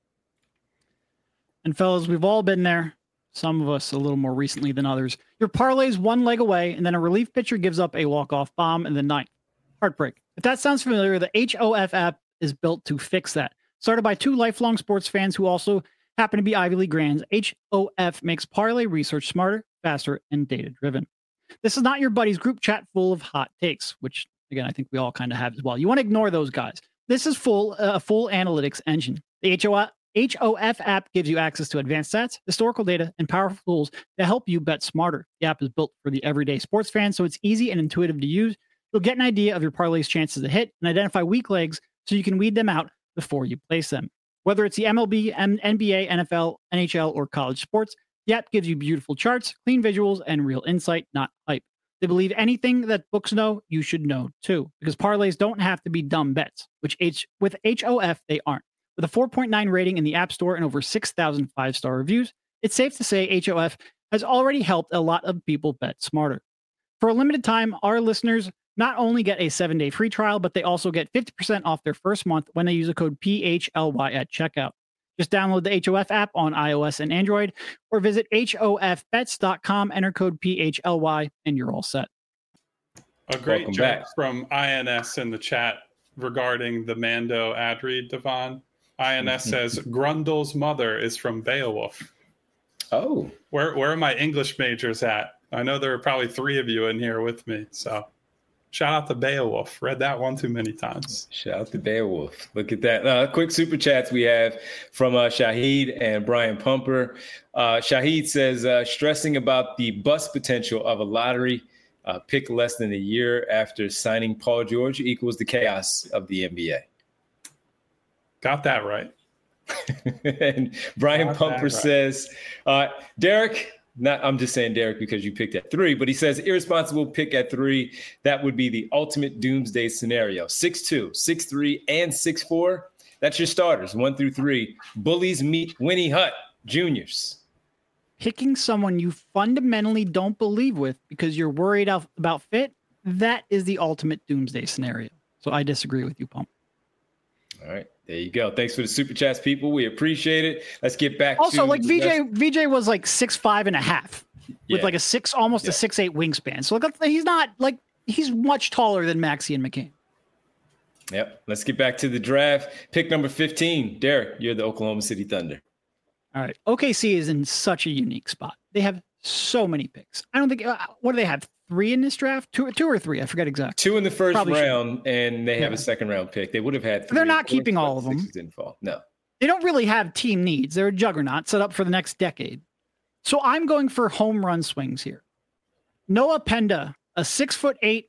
S3: And fellas, we've all been there. Some of us a little more recently than others. Your parlay's one leg away, and then a relief pitcher gives up a walk-off bomb in the ninth. Heartbreak. If that sounds familiar, the HOF app is built to fix that. Started by 2 lifelong sports fans who also happen to be Ivy League grands, HOF makes parlay research smarter, faster, and data-driven. This is not your buddy's group chat full of hot takes, which, again, I think we all kind of have as well. You want to ignore those guys. This is full analytics engine. The HOF app gives you access to advanced stats, historical data, and powerful tools to help you bet smarter. The app is built for the everyday sports fan, so it's easy and intuitive to use. You'll get an idea of your parlay's chances to hit and identify weak legs so you can weed them out before you place them. Whether it's the MLB, NBA, NFL, NHL, or college sports, the app gives you beautiful charts, clean visuals, and real insight, not hype. They believe anything that books know, you should know too, because parlays don't have to be dumb bets, which with HOF, they aren't. With a 4.9 rating in the App Store and over 6,000 5-star reviews, it's safe to say HOF has already helped a lot of people bet smarter. For a limited time, our listeners not only get a 7-day free trial, but they also get 50% off their first month when they use the code PHLY at checkout. Just download the HOF app on iOS and Android, or visit HOFbets.com, enter code PHLY, and you're all set.
S2: A great joke from INS in the chat. regarding the Mando ad read, Devon. INS says Grundle's mother is from Beowulf.
S1: Oh,
S2: where are my English majors at? I know there are probably 3 of you in here with me. So shout out to Beowulf. Read that one too many times.
S1: Shout out to Beowulf. Look at that. Quick super chats we have from Shahid and Brian Pumper. Shahid says, stressing about the bust potential of a lottery pick less than a year after signing Paul George equals the chaos of the NBA.
S2: Got that right.
S1: And Brian Pumper says, Derek, I'm just saying Derek because you picked at 3, but he says irresponsible pick at 3. That would be the ultimate doomsday scenario. 6'2", 6'3", and 6'4". That's your starters, 1 through 3. Bullies meet Winnie Hutt juniors.
S3: Picking someone you fundamentally don't believe with because you're worried about fit, that is the ultimate doomsday scenario. So I disagree with you, Pump.
S1: All right. There you go. Thanks for the super chats, people. We appreciate it. Let's get back
S3: also,
S1: to
S3: like VJ was like 6'5.5" with like a almost a 6'8" wingspan. So look, he's much taller than Maxey and McCain.
S1: Yep. Let's get back to the draft. Pick number 15. Derek, you're the Oklahoma City Thunder.
S3: All right. OKC is in such a unique spot. They have so many picks. I don't think what do they have? 3 in this draft? 2 or 3? I forget exactly.
S1: 2 in the first round, and they have a second round pick. They would have had 3.
S3: They're not keeping all of them.
S1: Didn't fall. No.
S3: They don't really have team needs. They're a juggernaut set up for the next decade. So I'm going for home run swings here. Noah Penda, a 6'8".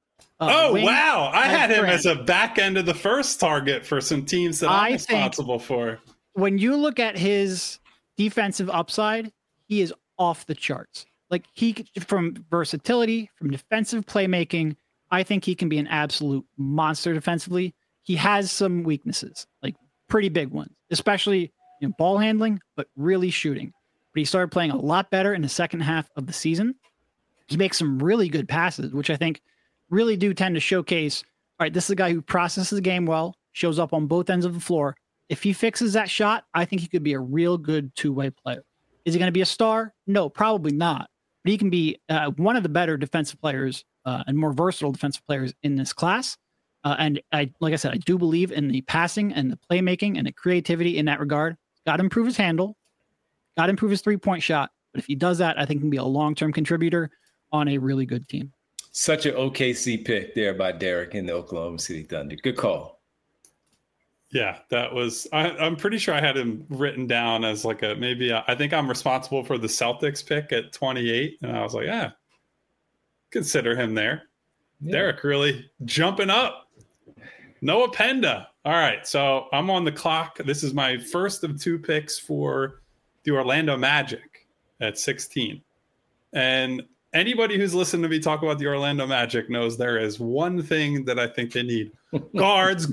S2: Wow. I had him as a back end of the first target for some teams that I'm responsible for.
S3: When you look at his defensive upside, he is off the charts. Like from versatility, from defensive playmaking, I think he can be an absolute monster defensively. He has some weaknesses, like pretty big ones, especially in ball handling, but really shooting. But he started playing a lot better in the second half of the season. He makes some really good passes, which I think really do tend to showcase, all right, this is a guy who processes the game well, shows up on both ends of the floor. If he fixes that shot, I think he could be a real good two-way player. Is he going to be a star? No, probably not. But he can be one of the better defensive players and more versatile defensive players in this class. And like I said, I do believe in the passing and the playmaking and the creativity in that regard. Got to improve his handle. Got to improve his three-point shot. But if he does that, I think he can be a long-term contributor on a really good team.
S1: Such an OKC pick there by Derek in the Oklahoma City Thunder. Good call.
S2: Yeah, that was, I'm pretty sure I had him written down as like I think I'm responsible for the Celtics pick at 28. And I was like, consider him there. Yeah. Derek really jumping up. Noah Penda. All right. So I'm on the clock. This is my first of 2 picks for the Orlando Magic at 16. And anybody who's listened to me talk about the Orlando Magic knows there is one thing that I think they need. Guards.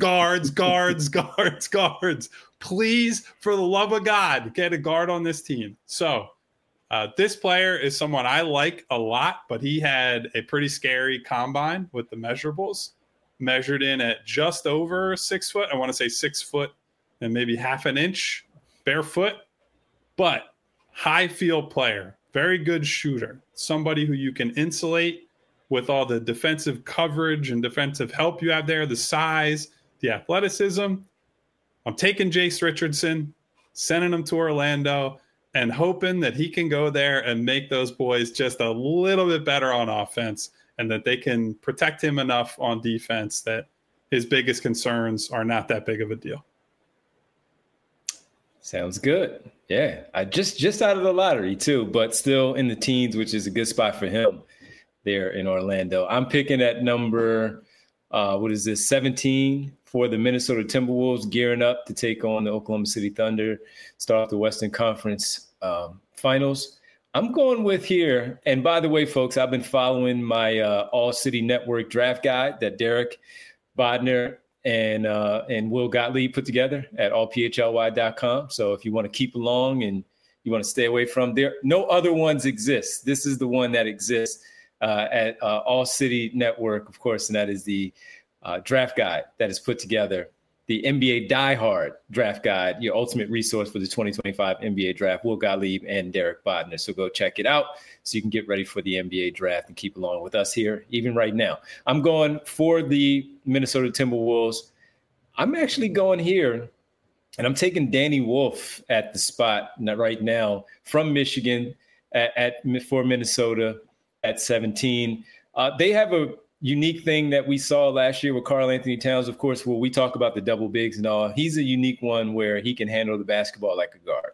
S2: Please, for the love of God, get a guard on this team. So this player is someone I like a lot, but he had a pretty scary combine with the measurables. Measured in at just over 6 foot. I want to say 6 foot and maybe half an inch barefoot, but high field player. Very good shooter, somebody who you can insulate with all the defensive coverage and defensive help you have there, the size, the athleticism. I'm taking Jace Richardson, sending him to Orlando, and hoping that he can go there and make those boys just a little bit better on offense and that they can protect him enough on defense that his biggest concerns are not that big of a deal.
S1: Sounds good. Yeah, I just out of the lottery too, but still in the teens, which is a good spot for him there in Orlando. I'm picking at number, 17 for the Minnesota Timberwolves, gearing up to take on the Oklahoma City Thunder, start the Western Conference Finals. I'm going with here, and by the way, folks, I've been following my All City Network draft guide that Derek Bodner and Will Gottlieb put together at allphly.com. So if you want to keep along and you want to stay away from there, no other ones exist. This is the one that exists at All City Network, of course, and that is the draft guide that is put together the NBA diehard draft guide, your ultimate resource for the 2025 NBA draft, Will Gottlieb and Derek Bodner. So go check it out so you can get ready for the NBA draft and keep along with us here, even right now. I'm going for the Minnesota Timberwolves. I'm actually going here, and I'm taking Danny Wolf at the spot right now from Michigan for Minnesota at 17. They have a unique thing that we saw last year with Karl-Anthony Towns. Of course, when we talk about the double bigs and all, he's a unique one where he can handle the basketball like a guard.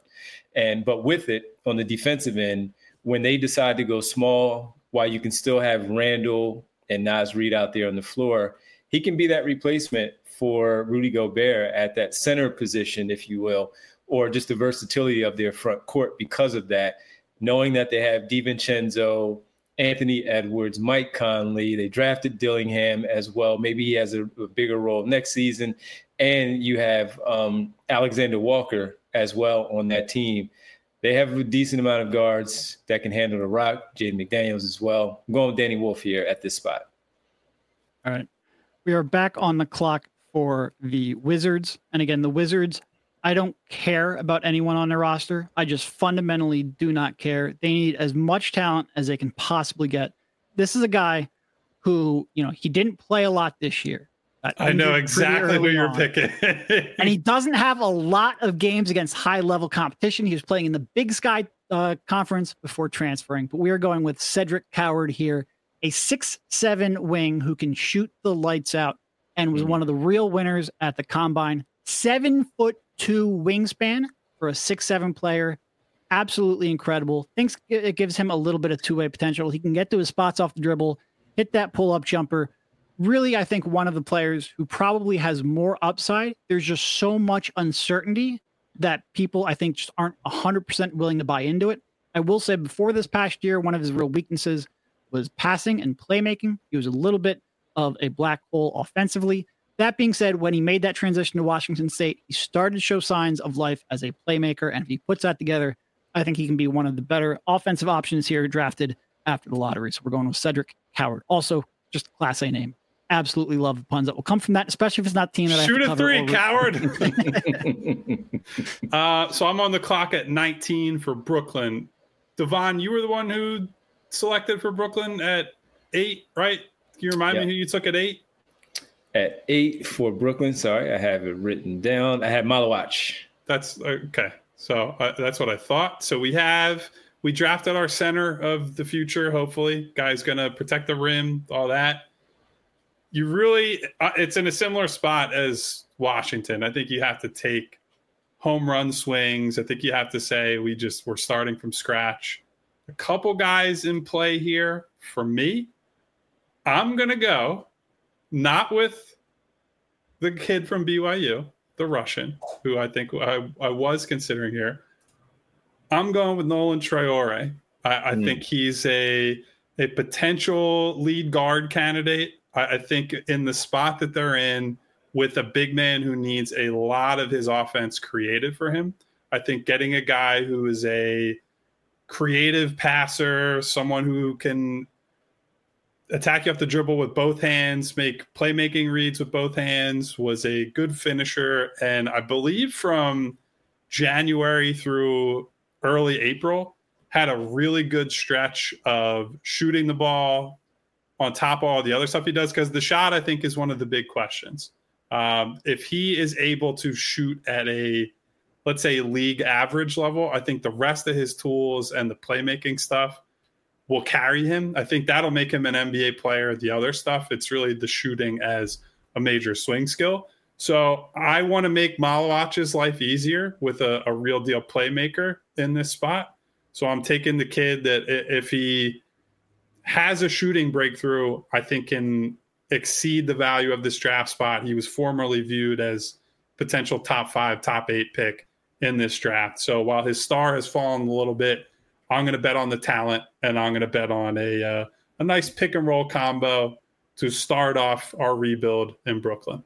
S1: But with it, on the defensive end, when they decide to go small, while you can still have Randall and Naz Reid out there on the floor, he can be that replacement for Rudy Gobert at that center position, if you will, or just the versatility of their front court because of that, knowing that they have DiVincenzo, Anthony Edwards, Mike Conley. They drafted Dillingham as well. Maybe he has a bigger role next season. And you have Alexander Walker as well on that team. They have a decent amount of guards that can handle the rock. Jaden McDaniels as well. I'm going with Danny Wolf here at this spot.
S3: All right. We are back on the clock for the Wizards. And again, the Wizards, I don't care about anyone on their roster. I just fundamentally do not care. They need as much talent as they can possibly get. This is a guy who, he didn't play a lot this year.
S2: I know exactly who you're picking.
S3: And he doesn't have a lot of games against high-level competition. He was playing in the Big Sky Conference before transferring. But we are going with Cedric Coward here, a 6'7" wing who can shoot the lights out and was one of the real winners at the Combine. 7'2" wingspan for a 6'7" player. Absolutely incredible. Thinks it gives him a little bit of two-way potential. He can get to his spots off the dribble, hit that pull-up jumper. Really, I think one of the players who probably has more upside. There's just so much uncertainty that people, I think, just aren't 100% willing to buy into it. I will say before this past year, one of his real weaknesses was passing and playmaking. He was a little bit of a black hole offensively. That being said, when he made that transition to Washington State, he started to show signs of life as a playmaker. And if he puts that together, I think he can be one of the better offensive options here drafted after the lottery. So we're going with Cedric Coward. Also, just a Class A name. Absolutely love the puns that will come from that, especially if it's not a team that
S2: Shoot
S3: I have to
S2: a three, Coward. So I'm on the clock at 19 for Brooklyn. Devon, you were the one who selected for Brooklyn at 8, right? Can you remind me who you took at 8?
S1: At 8 for Brooklyn. Sorry, I have it written down. I had Malawach.
S2: That's okay. So that's what I thought. So we drafted our center of the future. Hopefully, guy's going to protect the rim, all that. You really, it's in a similar spot as Washington. I think you have to take home run swings. I think you have to say we're starting from scratch. A couple guys in play here for me. I'm going to go not with the kid from BYU, the Russian, who I think I was considering here. I'm going with Nolan Traore. I think he's a potential lead guard candidate. I think in the spot that they're in with a big man who needs a lot of his offense created for him, I think getting a guy who is a creative passer, someone who can attack you off the dribble with both hands, make playmaking reads with both hands, was a good finisher. And I believe from January through early April, had a really good stretch of shooting the ball on top of all the other stuff he does, because the shot, I think, is one of the big questions. If he is able to shoot at a, let's say, league average level, I think the rest of his tools and the playmaking stuff will carry him. I think that'll make him an NBA player. The other stuff, it's really the shooting as a major swing skill. So I want to make Malawach's life easier with a real deal playmaker in this spot. So I'm taking the kid that if he has a shooting breakthrough, I think can exceed the value of this draft spot. He was formerly viewed as potential top 5, top 8 pick in this draft. So while his star has fallen a little bit, I'm going to bet on the talent, and I'm going to bet on a nice pick and roll combo to start off our rebuild in Brooklyn.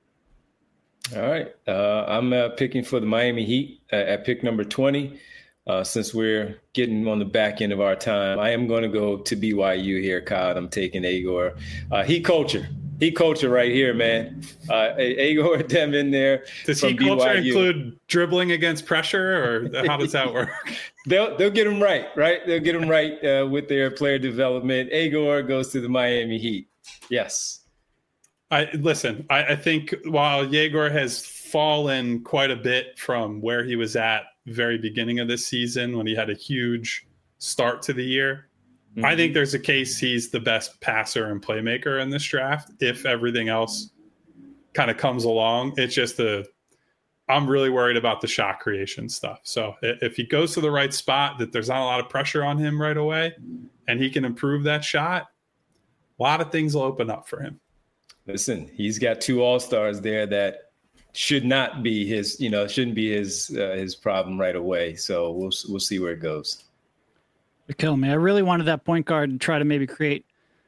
S1: All right. I'm picking for the Miami Heat at pick number 20. Since we're getting on the back end of our time, I am going to go to BYU here, Kyle. I'm taking Agor. Heat culture. He culture right here, man. Agor Dem in there.
S2: Does he culture include dribbling against pressure, or how does that work?
S1: They'll get him right? They'll get him right with their player development. Agor goes to the Miami Heat. Yes.
S2: I think while Yegor has fallen quite a bit from where he was at very beginning of this season when he had a huge start to the year, I think there's a case he's the best passer and playmaker in this draft if everything else kind of comes along. It's just I'm really worried about the shot creation stuff. So if he goes to the right spot, that there's not a lot of pressure on him right away, and he can improve that shot, a lot of things will open up for him.
S1: Listen, he's got 2 all-stars there that shouldn't be his problem right away. So we'll see where it goes.
S3: Kill me. I really wanted that point guard to try to maybe create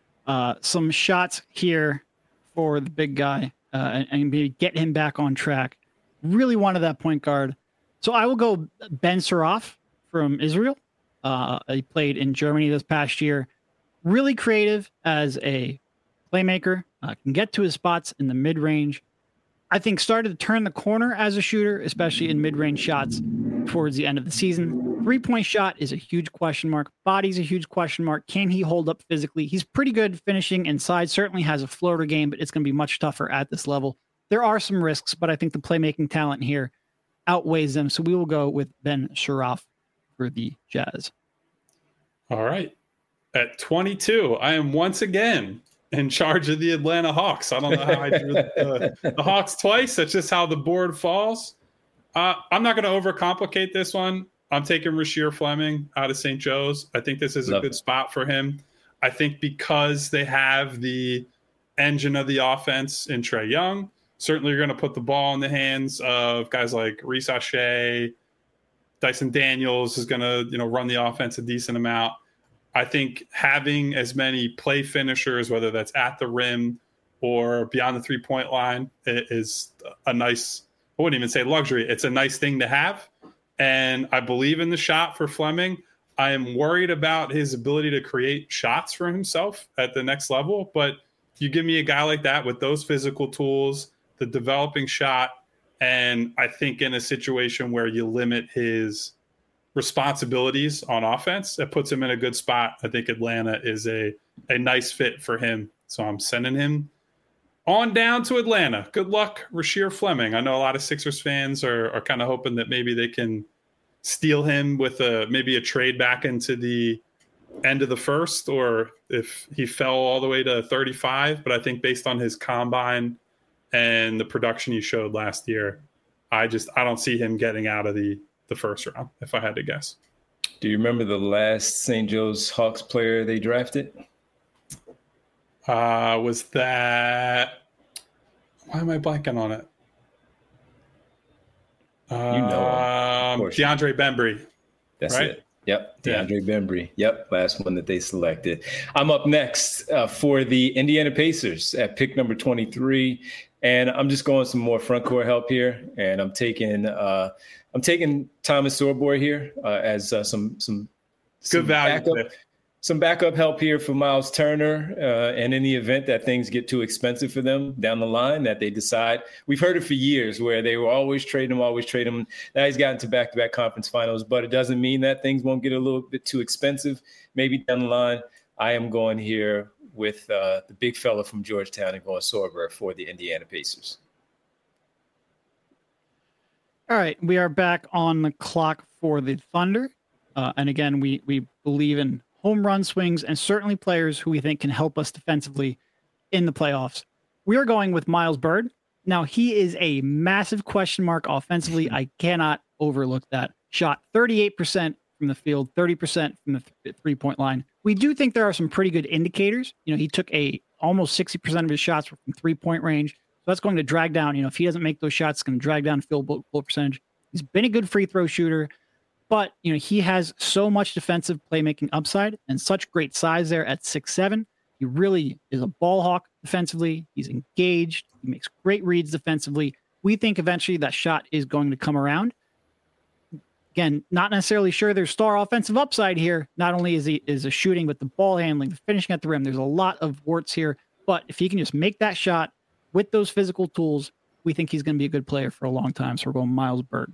S3: some shots here for the big guy and maybe get him back on track. Really wanted that point guard. So I will go Ben Suraf from Israel. He played in Germany this past year. Really creative as a playmaker. Can get to his spots in the mid-range. I think started to turn the corner as a shooter, especially in mid-range shots towards the end of the season. 3-point shot is a huge question mark. Body's a huge question mark. Can he hold up physically? He's pretty good finishing inside. Certainly has a floater game, but it's going to be much tougher at this level. There are some risks, but I think the playmaking talent here outweighs them. So we will go with Ben Suraf for the Jazz.
S2: All right. At 22, I am once again in charge of the Atlanta Hawks. I don't know how I drew the Hawks twice. That's just how the board falls. I'm not going to overcomplicate this one. I'm taking Rasheer Fleming out of St. Joe's. I think this is a good spot for him. I think because they have the engine of the offense in Trae Young, certainly you're going to put the ball in the hands of guys like Reece Shea. Dyson Daniels is going to run the offense a decent amount. I think having as many play finishers, whether that's at the rim or beyond the 3-point line, is a nice, I wouldn't even say luxury. It's a nice thing to have. And I believe in the shot for Fleming. I am worried about his ability to create shots for himself at the next level. But you give me a guy like that with those physical tools, the developing shot, and I think in a situation where you limit his responsibilities on offense, it puts him in a good spot. I think Atlanta is a nice fit for him. So I'm sending him on down to Atlanta. Good luck, Rasheer Fleming. I know a lot of Sixers fans are kind of hoping that maybe they can steal him with maybe a trade back into the end of the first, or if he fell all the way to 35. But I think based on his combine and the production he showed last year, I don't see him getting out of the first round, if I had to guess.
S1: Do you remember the last St. Joe's Hawks player they drafted?
S2: Was that... Why am I blanking on it? DeAndre Bembry.
S1: That's
S2: right?
S1: it. Yep, DeAndre Bembry. Yep, last one that they selected. I'm up next for the Indiana Pacers at pick number 23, and I'm just going some more front court help here, and I'm taking Thomas Sorboy here as some
S2: good value.
S1: Some backup help here for Miles Turner, and in the event that things get too expensive for them down the line, that they decide. We've heard it for years where they were always trading him. Now he's gotten to back-to-back conference finals, but it doesn't mean that things won't get a little bit too expensive maybe down the line. I am going here with the big fella from Georgetown and going Sorber for the Indiana Pacers.
S3: All right, we are back on the clock for the Thunder. And again, we believe in home run swings and certainly players who we think can help us defensively in the playoffs. We are going with Miles Byrd. Now, he is a massive question mark offensively. I cannot overlook that. Shot 38% from the field, 30% from the three-point line. We do think there are some pretty good indicators. He took almost 60% of his shots from three-point range. So that's going to drag down, if he doesn't make those shots, it's going to drag down field goal percentage. He's been a good free throw shooter, but he has so much defensive playmaking upside and such great size there at 6'7". He really is a ball hawk defensively. He's engaged. He makes great reads defensively. We think eventually that shot is going to come around. Again, not necessarily sure there's star offensive upside here. Not only is he shooting, but the ball handling, the finishing at the rim. There's a lot of warts here, But if he can just make that shot with those physical tools, we think he's going to be a good player for a long time. So we're going Miles Burton.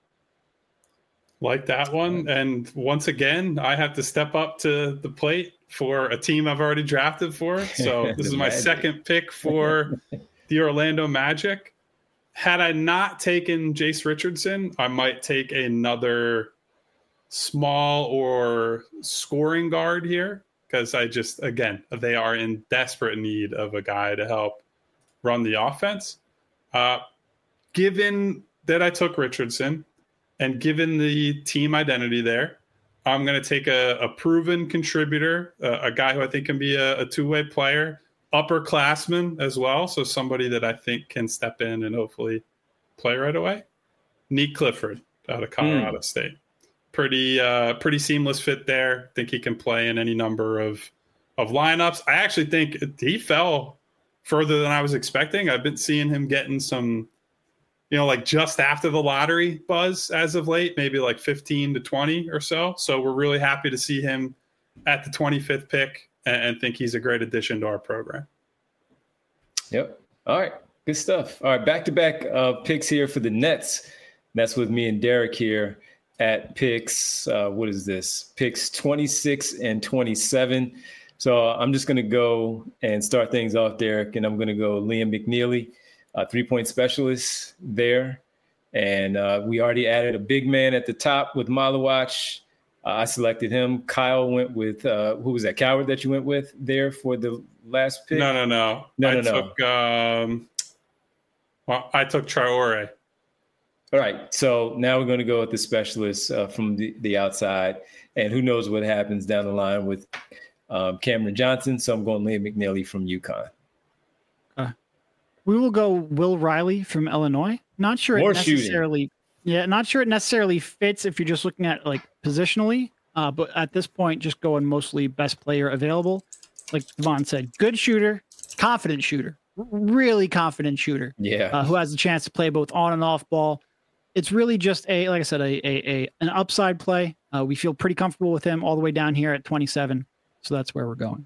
S2: Like that one. And once again, I have to step up to the plate for a team I've already drafted for. So this is my second pick for the Orlando Magic. Had I not taken Jace Richardson, I might take another small or scoring guard here, because they are in desperate need of a guy to help run the offense. Given that I took Richardson and given the team identity there, I'm going to take a proven contributor, a guy who I think can be a two-way player, upperclassman as well. So somebody that I think can step in and hopefully play right away. Nick Clifford out of Colorado State. Pretty seamless fit there. Think he can play in any number of lineups. I actually think he fell further than I was expecting. I've been seeing him getting some, like just after the lottery buzz as of late, maybe like 15 to 20 or so. So we're really happy to see him at the 25th pick and think he's a great addition to our program.
S1: Yep. All right. Good stuff. All right. Back-to-back picks here for the Nets. That's with me and Derek here at picks. What is this? Picks 26 and 27. So I'm just going to go and start things off, Derek, and I'm going to go Liam McNeely, three-point specialist there. And we already added a big man at the top with Malawach. I selected him. Kyle went with, who was that, Coward that you went with there for the last pick?
S2: No. I took Traore.
S1: All right, so now we're going to go with the specialist from the outside, and who knows what happens down the line with Cameron Johnson. So I'm going Liam McNeely from UConn.
S3: We will go Will Riley from Illinois. Not sure it necessarily fits if you're just looking at like positionally, but at this point, just going mostly best player available. Like Devon said, good shooter, confident shooter, really confident shooter.
S1: Yeah,
S3: who has a chance to play both on and off ball. It's really just like I said, an upside play. We feel pretty comfortable with him all the way down here at 27. So that's where we're going.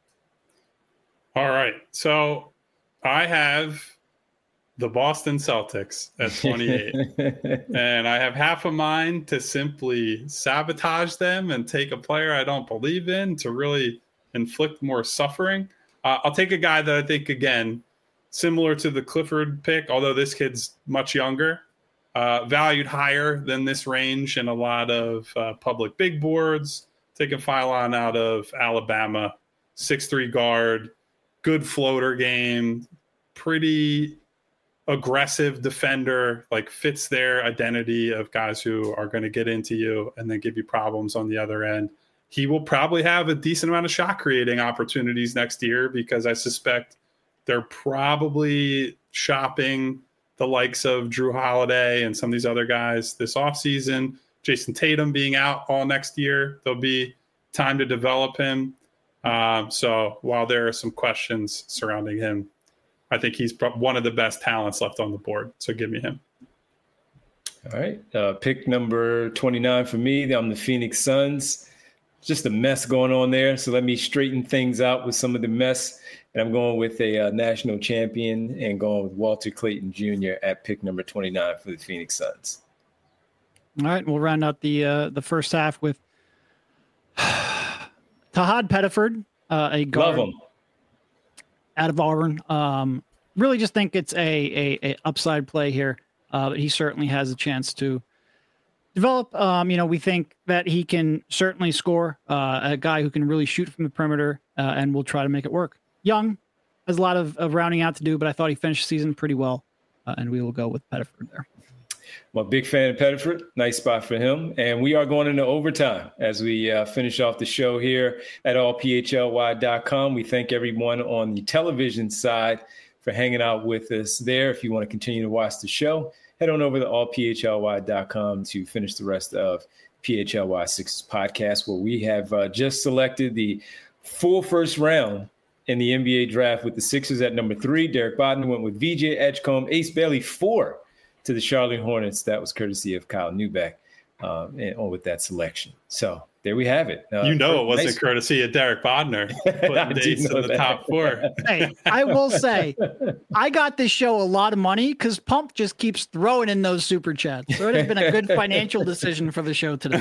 S2: All right. So I have the Boston Celtics at 28. And I have half a mind to simply sabotage them and take a player I don't believe in to really inflict more suffering. I'll take a guy that I think, again, similar to the Clifford pick, although this kid's much younger. Valued higher than this range in a lot of public big boards. Taking Philon out of Alabama, 6'3" guard, good floater game, pretty aggressive defender, like fits their identity of guys who are going to get into you and then give you problems on the other end. He will probably have a decent amount of shot creating opportunities next year because I suspect they're probably shopping the likes of Drew Holiday and some of these other guys this offseason. Jason Tatum being out all next year, there'll be time to develop him. So while there are some questions surrounding him, I think he's one of the best talents left on the board. So give me him.
S1: All right. Pick number 29 for me. I'm the Phoenix Suns. Just a mess going on there. So let me straighten things out with some of the mess. And I'm going with a national champion and going with Walter Clayton Jr. at pick number 29 for the Phoenix Suns.
S3: All right, we'll round out the first half with Tahad Pettiford, a guard out of Auburn. Really just think it's a upside play here. But he certainly has a chance to develop. We think that he can certainly score, a guy who can really shoot from the perimeter, and we'll try to make it work. Young, has a lot of rounding out to do, but I thought he finished the season pretty well, and we will go with Pettiford there.
S1: I'm a big fan of Pettiford. Nice spot for him. And we are going into overtime as we finish off the show here at allphly.com. We thank everyone on the television side for hanging out with us there. If you want to continue to watch the show, head on over to allphly.com to finish the rest of PHLY Sixers podcast, where we have just selected the full first round in the NBA draft with the Sixers at number 3. Derek Bodden went with VJ Edgecombe, Ace Bailey 4 to the Charlotte Hornets. That was courtesy of Kyle Neubeck. with that selection. So there we have it.
S2: It wasn't courtesy of Derek Bodner putting dates in the top 4.
S3: Hey, I will say, I got this show a lot of money because Pump just keeps throwing in those super chats. So it has been a good financial decision for the show today.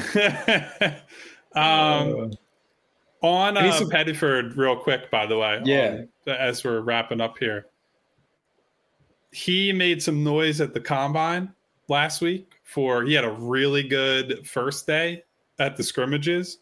S2: On Pettiford, real quick, by the way, as we're wrapping up here, he made some noise at the combine last week. He had a really good first day at the scrimmages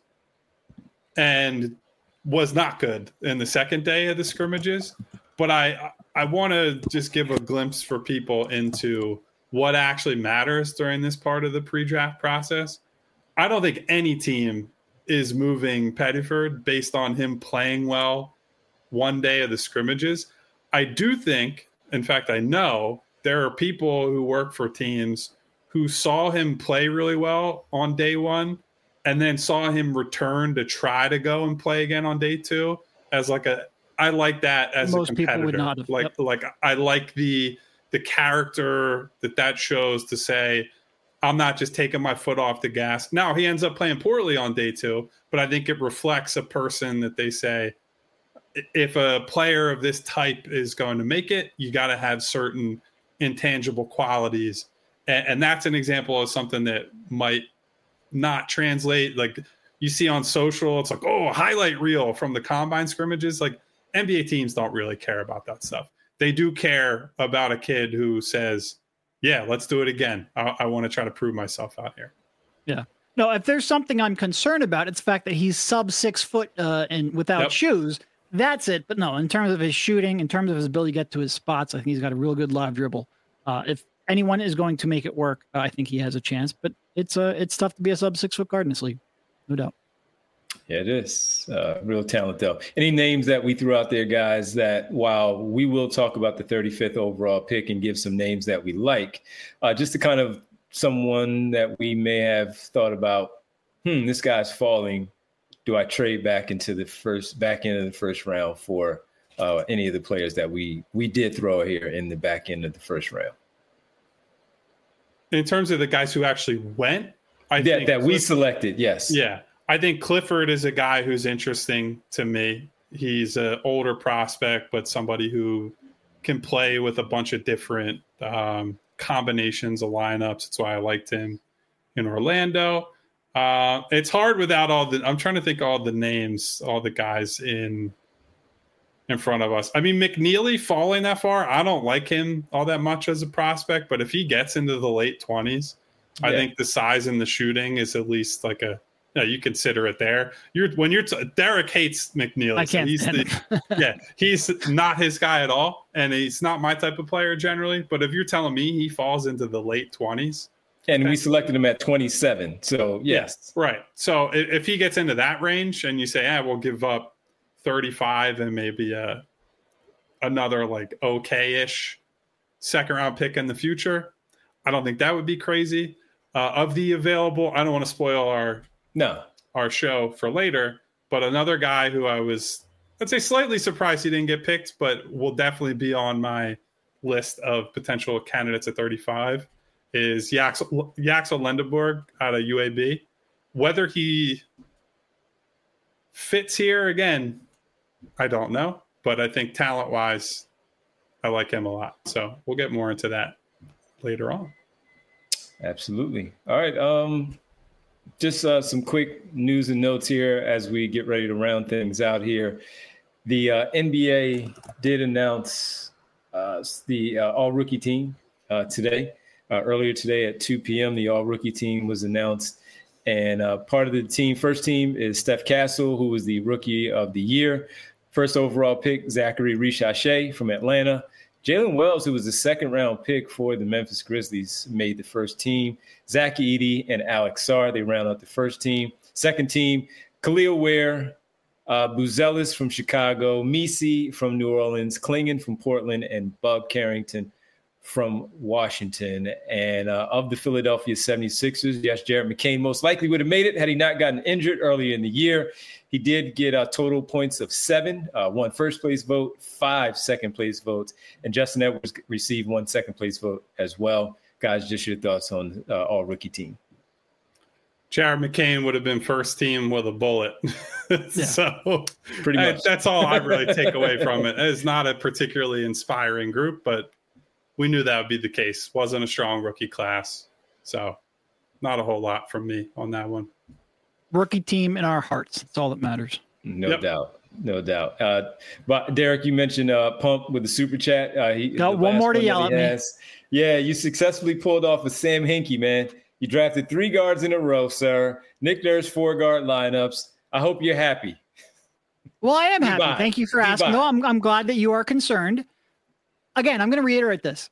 S2: and was not good in the second day of the scrimmages. But I want to just give a glimpse for people into what actually matters during this part of the pre-draft process. I don't think any team is moving Pettiford based on him playing well one day of the scrimmages. I do think, in fact, I know there are people who work for teams who saw him play really well on day one and then saw him return to try to go and play again on day 2 as I like that as
S3: most
S2: a competitor.
S3: People would not have.
S2: I like the character that shows to say, I'm not just taking my foot off the gas. Now he ends up playing poorly on day 2, but I think it reflects a person that they say, if a player of this type is going to make it, you got to have certain intangible qualities. And that's an example of something that might not translate. Like you see on social, it's like, a highlight reel from the combine scrimmages. Like NBA teams don't really care about that stuff. They do care about a kid who says, yeah, let's do it again. I want to try to prove myself out here.
S3: Yeah. No, if there's something I'm concerned about, it's the fact that he's sub 6 foot and without shoes. That's it. But no, in terms of his shooting, in terms of his ability to get to his spots, I think he's got a real good live dribble. If anyone is going to make it work, I think he has a chance. But it's tough to be a sub 6 foot guard in this league, no doubt.
S1: Yeah, it is. Real talent, though. Any names that we threw out there, guys, that while we will talk about the 35th overall pick and give some names that we like, just to kind of someone that we may have thought about, this guy's falling. Do I trade back into the back end of the first round for any of the players that we did throw here in the back end of the first round?
S2: In terms of the guys who actually went, I think
S1: that we selected, yes.
S2: Yeah. I think Clifford is a guy who's interesting to me. He's an older prospect, but somebody who can play with a bunch of different combinations of lineups. That's why I liked him in Orlando. It's hard without I'm trying to think all the names, all the guys in front of us. I mean, McNeely falling that far, I don't like him all that much as a prospect, but if he gets into the late 20s, I think the size and the shooting is at least like you consider it there. Derek hates McNeely.
S3: I can't stand
S2: him. He's not his guy at all, and he's not my type of player generally. But if you're telling me he falls into the late 20s,
S1: and we selected him at 27, so yes,
S2: right. So if he gets into that range, and you say, we'll give up 35 and maybe another like okay-ish second round pick in the future, I don't think that would be crazy. Of the available, I don't want to spoil our show for later, but another guy who I'd say slightly surprised he didn't get picked, but will definitely be on my list of potential candidates at 35 is Yaxel Lendeborg out of UAB. Whether he fits here again, I don't know, but I think talent-wise, I like him a lot. So we'll get more into that later on.
S1: Absolutely. All right. Just some quick news and notes here as we get ready to round things out here. The NBA did announce the all-rookie team today. Earlier today at 2 p.m., the all-rookie team was announced. And part of the first team is Steph Castle, who was the rookie of the year. First overall pick, Zachary Richache from Atlanta. Jalen Wells, who was the second-round pick for the Memphis Grizzlies, made the first team. Zach Edey and Alex Sarr, they round out the first team. Second team, Khalil Ware, Buzelis from Chicago, Misi from New Orleans, Klingon from Portland, and Bub Carrington from Washington. And of the Philadelphia 76ers, yes, Jared McCain most likely would have made it had he not gotten injured earlier in the year. He did get total points of 7, 1 first-place vote, 5 second-place votes, and Justin Edwards received 1 second-place vote as well. Guys, just your thoughts on all-rookie team.
S2: Jared McCain would have been first team with a bullet. So
S1: pretty much.
S2: That's all I really take away from it. It's not a particularly inspiring group, but we knew that would be the case. Wasn't a strong rookie class. So not a whole lot from me on that one.
S3: Rookie team in our hearts. That's all that matters.
S1: No doubt. But Derek, you mentioned Pump with the super chat.
S3: Got one more to yell at me.
S1: Yeah, you successfully pulled off with Sam Hinkie, man. You drafted 3 guards in a row, sir. Nick Nurse 4-guard lineups. I hope you're happy.
S3: Well, I am happy. Thank you for asking. No, I'm glad that you are concerned. Again, I'm going to reiterate this.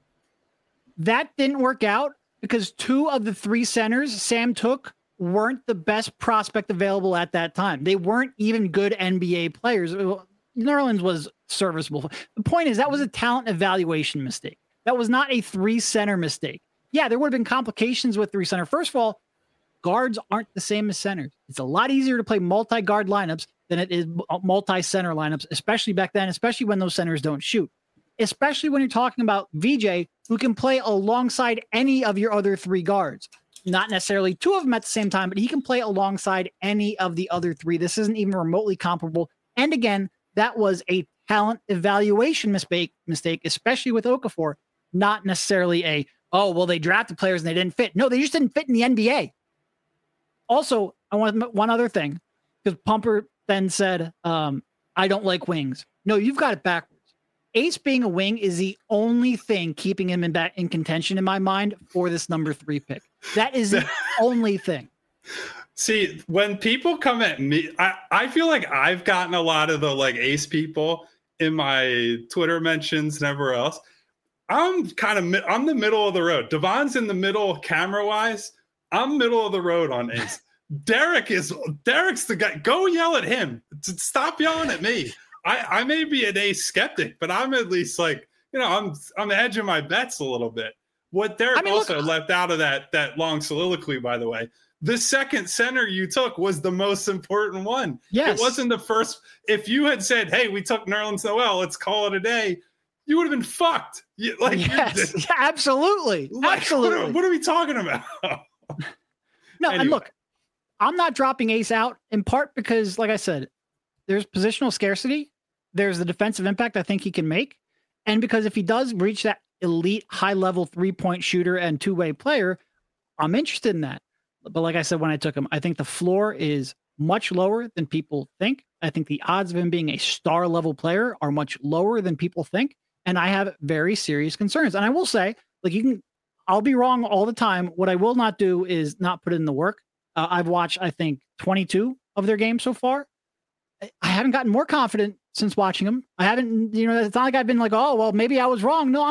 S3: That didn't work out because 2 of the 3 centers Sam took weren't the best prospect available at that time. They weren't even good NBA players. Nerlens was serviceable. The point is that was a talent evaluation mistake. That was not a 3-center mistake. Yeah, there would have been complications with 3-center. First of all, guards aren't the same as centers. It's a lot easier to play multi-guard lineups than it is multi-center lineups, especially back then, especially when those centers don't shoot. Especially when you're talking about VJ, who can play alongside any of your other 3 guards. Not necessarily 2 of them at the same time, but he can play alongside any of the other 3. This isn't even remotely comparable. And again, that was a talent evaluation mistake, especially with Okafor. Not necessarily they drafted players and they didn't fit. No, they just didn't fit in the NBA. Also, I want one other thing, because Pumper then said, I don't like wings. No, you've got it backwards. Ace being a wing is the only thing keeping him in contention in my mind for this number 3 pick. That is the only thing.
S2: See, when people come at me, I feel like I've gotten a lot of the Ace people in my Twitter mentions and everywhere else. I'm the middle of the road. Devon's in the middle camera wise. I'm middle of the road on Ace. Derek's the guy. Go yell at him. Stop yelling at me. I may be an Ace skeptic, but I'm at least I'm hedging my bets a little bit. What Derek left out of that long soliloquy, by the way, the second center you took was the most important one.
S3: Yes.
S2: It wasn't the first. If you had said, hey, we took Nerlens Noel, let's call it a day, you would have been fucked.
S3: Yes, absolutely. Absolutely.
S2: What are we talking about?
S3: No, anyway. And look, I'm not dropping Ace out in part because, like I said, there's positional scarcity. There's the defensive impact I think he can make. And because if he does reach that elite high-level 3-point shooter and 2-way player, I'm interested in that. But like I said, when I took him, I think the floor is much lower than people think. I think the odds of him being a star-level player are much lower than people think. And I have very serious concerns. And I will say, I'll be wrong all the time. What I will not do is not put in the work. I've watched, I think, 22 of their games so far. I haven't gotten more confident since watching them. I haven't, it's not like I've been maybe I was wrong. No,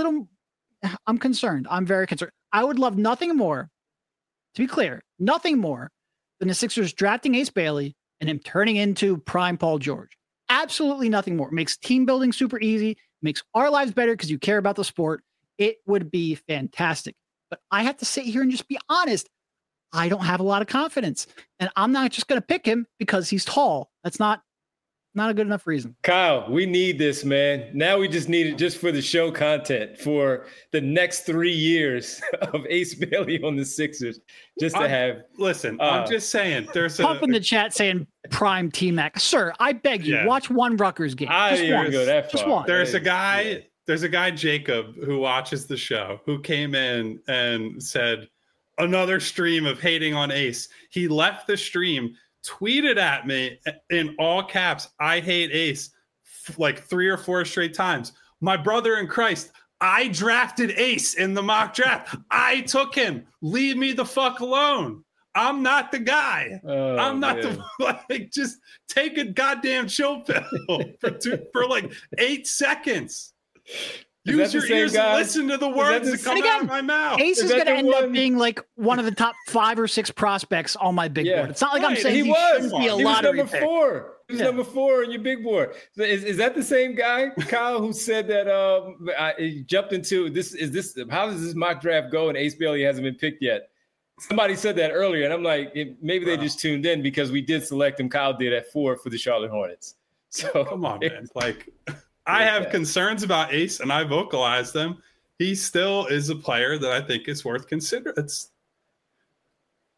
S3: I'm concerned. I'm very concerned. I would love nothing more, to be clear, nothing more than the Sixers drafting Ace Bailey and him turning into prime Paul George. Absolutely nothing more. It makes team building super easy, makes our lives better because you care about the sport. It would be fantastic. But I have to sit here and just be honest. I don't have a lot of confidence, and I'm not just going to pick him because he's tall. That's not a good enough reason.
S1: Kyle, we need this, man. Now we just need it just for the show content for the next 3 years of Ace Bailey on the Sixers. Just to have.
S2: Listen, I'm just saying. There's
S3: pump in the chat saying prime T-Mac. Sir, I beg you, watch one Rutgers game.
S1: I didn't go that far.
S3: Just one.
S2: There's a guy, Jacob, who watches the show, who came in and said, another stream of hating on Ace. He left the stream, tweeted at me in all caps, I hate Ace, 3 or 4 straight times. My brother in Christ, I drafted Ace in the mock draft. I took him. Leave me the fuck alone. I'm not the guy. I'm not just take a goddamn chill pill for 8 seconds. Use your ears and listen to the words that come out of my mouth.
S3: Ace is going to end up being one of the top 5 or 6 prospects on my big board. It's not like I'm saying he shouldn't be a lottery pick.
S1: He was number 4 on your big board. So is that the same guy, Kyle, who said that he jumped into this? How does this mock draft go? And Ace Bailey hasn't been picked yet. Somebody said that earlier, and I'm like, maybe they just tuned in because we did select him. Kyle did at 4 for the Charlotte Hornets. So
S2: come on, man. I have concerns about Ace, and I vocalized them. He still is a player that I think is worth considering.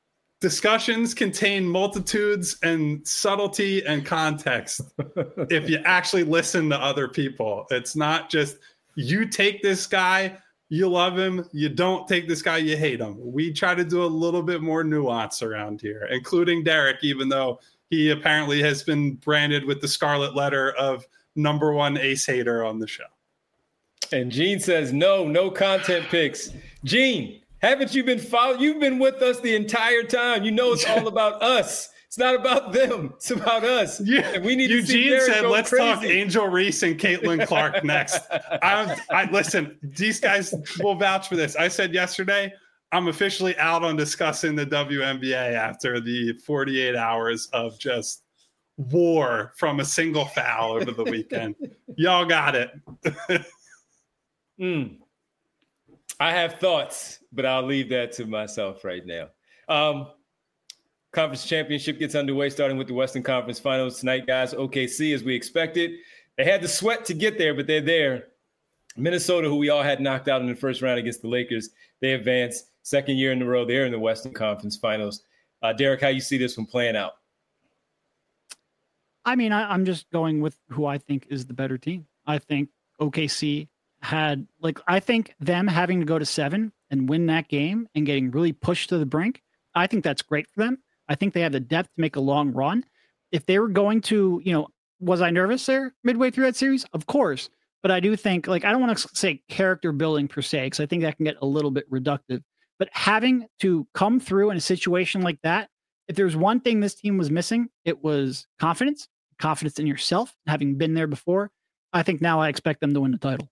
S2: discussions contain multitudes and subtlety and context. If you actually listen to other people, it's not just you take this guy, you love him. You don't take this guy, you hate him. We try to do a little bit more nuance around here, including Derek, even though he apparently has been branded with the scarlet letter of number one ace hater on the show.
S1: And Gene says, no content picks. Gene, haven't you been following? You've been with us the entire time. You know it's all about us. It's not about them. It's about us.
S2: Yeah.
S1: And we need
S2: Eugene
S1: to see Derek
S2: said, let's
S1: crazy.
S2: talk Angel Reese and Caitlin Clark next. I listen, these guys will vouch for this. I said yesterday, I'm officially out on discussing the WNBA after the 48 hours of just war from a single foul over the weekend. Y'all got it.
S1: I have thoughts, but I'll leave that to myself right now. Conference championship gets underway, starting with the Western Conference Finals tonight, guys. OKC, as we expected. They had the sweat to get there, but they're there. Minnesota, who we all had knocked out in the first round against the Lakers, they advanced. Second year in a row, they're in the Western Conference Finals. Derek, how you see this one playing out?
S3: I mean, I'm just going with who I think is the better team. I think OKC had, I think them having to go to 7 and win that game and getting really pushed to the brink, I think that's great for them. I think they have the depth to make a long run. If they were going to, was I nervous there midway through that series? Of course. But I do think, I don't want to say character building per se, because I think that can get a little bit reductive. But having to come through in a situation like that, if there's one thing this team was missing, it was confidence in yourself, having been there before. I think now I expect them to win the title.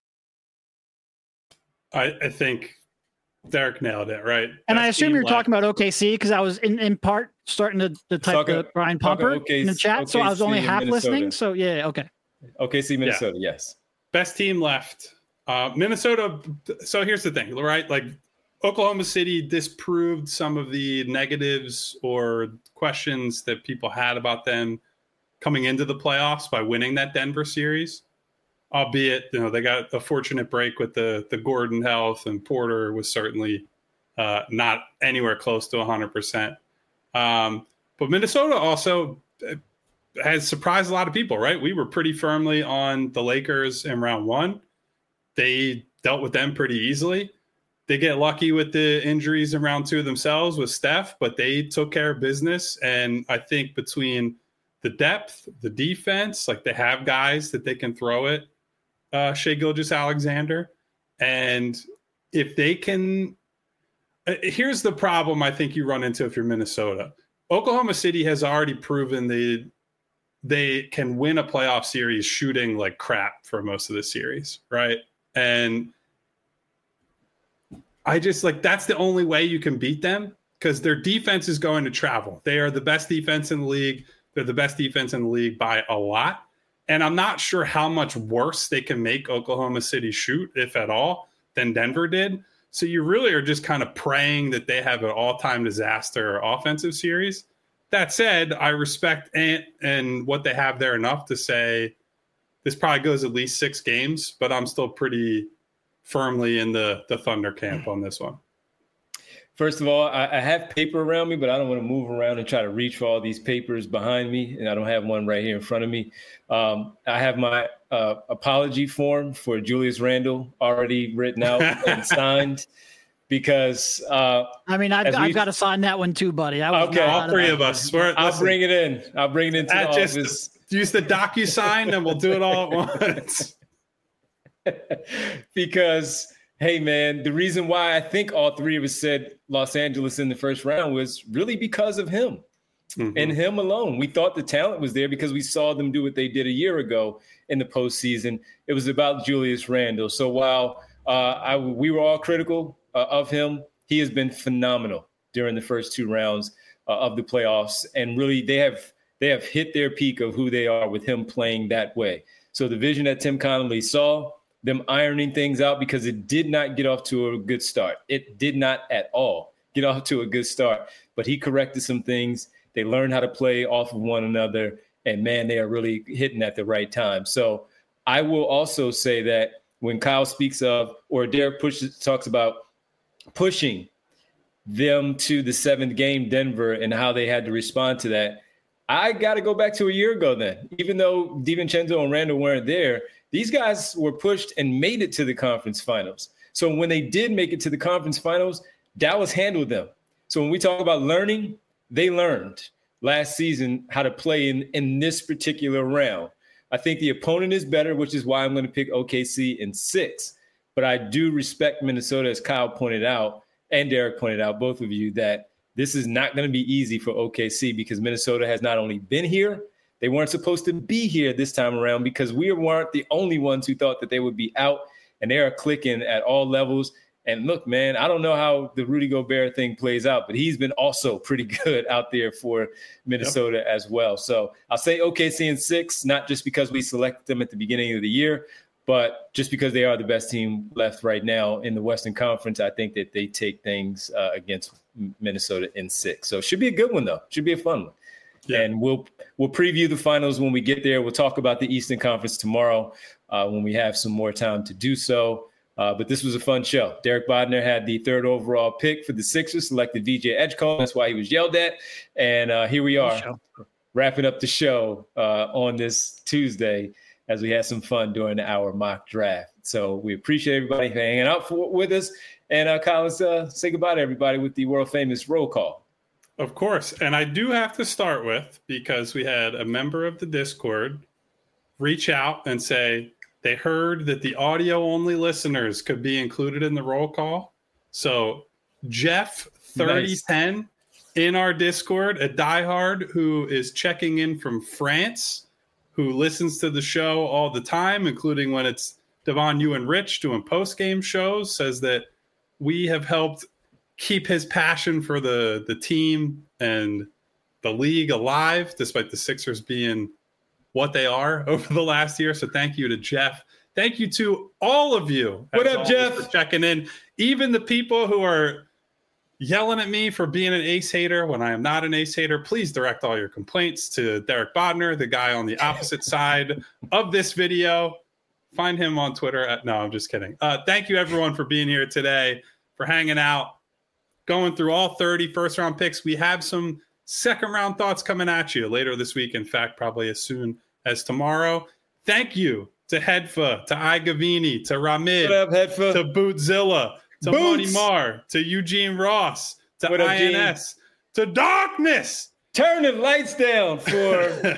S2: I think Derek nailed it, right?
S3: And I assume you're talking about OKC because I was in part starting to type the Brian Pumper in the chat. So I was only half listening. So yeah, okay.
S1: OKC, Minnesota, yes.
S2: Best team left. Minnesota. So here's the thing, right? Oklahoma City disproved some of the negatives or questions that people had about them coming into the playoffs by winning that Denver series. Albeit, they got a fortunate break with the Gordon health, and Porter was certainly not anywhere close to 100%. But Minnesota also has surprised a lot of people, right? We were pretty firmly on the Lakers in round 1. They dealt with them pretty easily. They get lucky with the injuries in round 2 themselves with Steph, but they took care of business. And I think between the depth, the defense, they have guys that they can throw it. Shai Gilgeous-Alexander. And if they can, here's the problem I think you run into if you're Minnesota. Oklahoma City has already proven they can win a playoff series shooting like crap for most of the series, right? And I just that's the only way you can beat them, because their defense is going to travel. They are the best defense in the league. They're the best defense in the league by a lot. And I'm not sure how much worse they can make Oklahoma City shoot, if at all, than Denver did. So you really are just kind of praying that they have an all-time disaster offensive series. That said, I respect Ant and what they have there enough to say this probably goes at least 6 games, but I'm still pretty firmly in the Thunder camp on this one.
S1: First of all, I have paper around me, but I don't want to move around and try to reach for all these papers behind me, and I don't have one right here in front of me. I have my apology form for Julius Randle already written out and signed, because
S3: I've got to sign that one too, buddy.
S2: Okay, all 3 of us.
S1: I'll bring it in. I'll bring it into the office.
S2: Use the DocuSign, and we'll do it all at once.
S1: Because, hey, man, the reason why I think all 3 of us said Los Angeles in the first round was really because of him and him alone. We thought the talent was there because we saw them do what they did a year ago in the postseason. It was about Julius Randle. So while we were all critical of him, he has been phenomenal during the first 2 rounds of the playoffs. And really, they have hit their peak of who they are with him playing that way. So the vision that Tim Connolly saw, them ironing things out, because it did not get off to a good start. It did not at all get off to a good start, but he corrected some things. They learned how to play off of one another, and man, they are really hitting at the right time. So I will also say that when Kyle speaks of, or Derek talks about pushing them to the 7th game, Denver, and how they had to respond to that. I got to go back to a year ago then. Even though DiVincenzo and Randall weren't there, these guys were pushed and made it to the conference finals. So when they did make it to the conference finals, Dallas handled them. So when we talk about learning, they learned last season how to play in this particular round. I think the opponent is better, which is why I'm going to pick OKC in 6. But I do respect Minnesota, as Kyle pointed out, and Derek pointed out, both of you, that this is not going to be easy for OKC because Minnesota has not only been here, they weren't supposed to be here this time around because we weren't the only ones who thought that they would be out, and they are clicking at all levels. And look, man, I don't know how the Rudy Gobert thing plays out, but he's been also pretty good out there for Minnesota as well. So I'll say OKC in 6, not just because we selected them at the beginning of the year, but just because they are the best team left right now in the Western Conference. I think that they take things against Minnesota in 6. So it should be a good one, though. Should be a fun one. Yeah. And we'll preview the finals when we get there. We'll talk about the Eastern Conference tomorrow when we have some more time to do so. But this was a fun show. Derek Bodner had the 3rd overall pick for the Sixers, selected VJ Edgecombe. That's why he was yelled at. And here we are wrapping up the show on this Tuesday as we had some fun during the hour mock draft. So we appreciate everybody hanging out with us. And Kyle, let's say goodbye to everybody with the world famous roll call.
S2: Of course. And I do have to start with, because we had a member of the Discord reach out and say they heard that the audio-only listeners could be included in the roll call. So Jeff 3010 in our Discord, a diehard who is checking in from France, who listens to the show all the time, including when it's Devon, you, and Rich doing post-game shows, says that we have helped keep his passion for the team and the league alive, despite the Sixers being what they are over the last year. So thank you to Jeff. Thank you to all of you.
S1: What up, Jeff?
S2: For checking in. Even the people who are yelling at me for being an Ace hater when I am not an Ace hater, please direct all your complaints to Derek Bodner, the guy on the opposite side of this video. Find him on Twitter. No, I'm just kidding. Thank you, everyone, for being here today, for hanging out, going through all 30 first-round picks. We have some second-round thoughts coming at you later this week. In fact, probably as soon as tomorrow. Thank you to Hedfa, to Igavini, to Ramid,
S1: what up, Hedfa?
S2: To Bootzilla, to Monty Marr, to Eugene Ross, to what INS, up, to Darkness.
S1: Turn the lights down for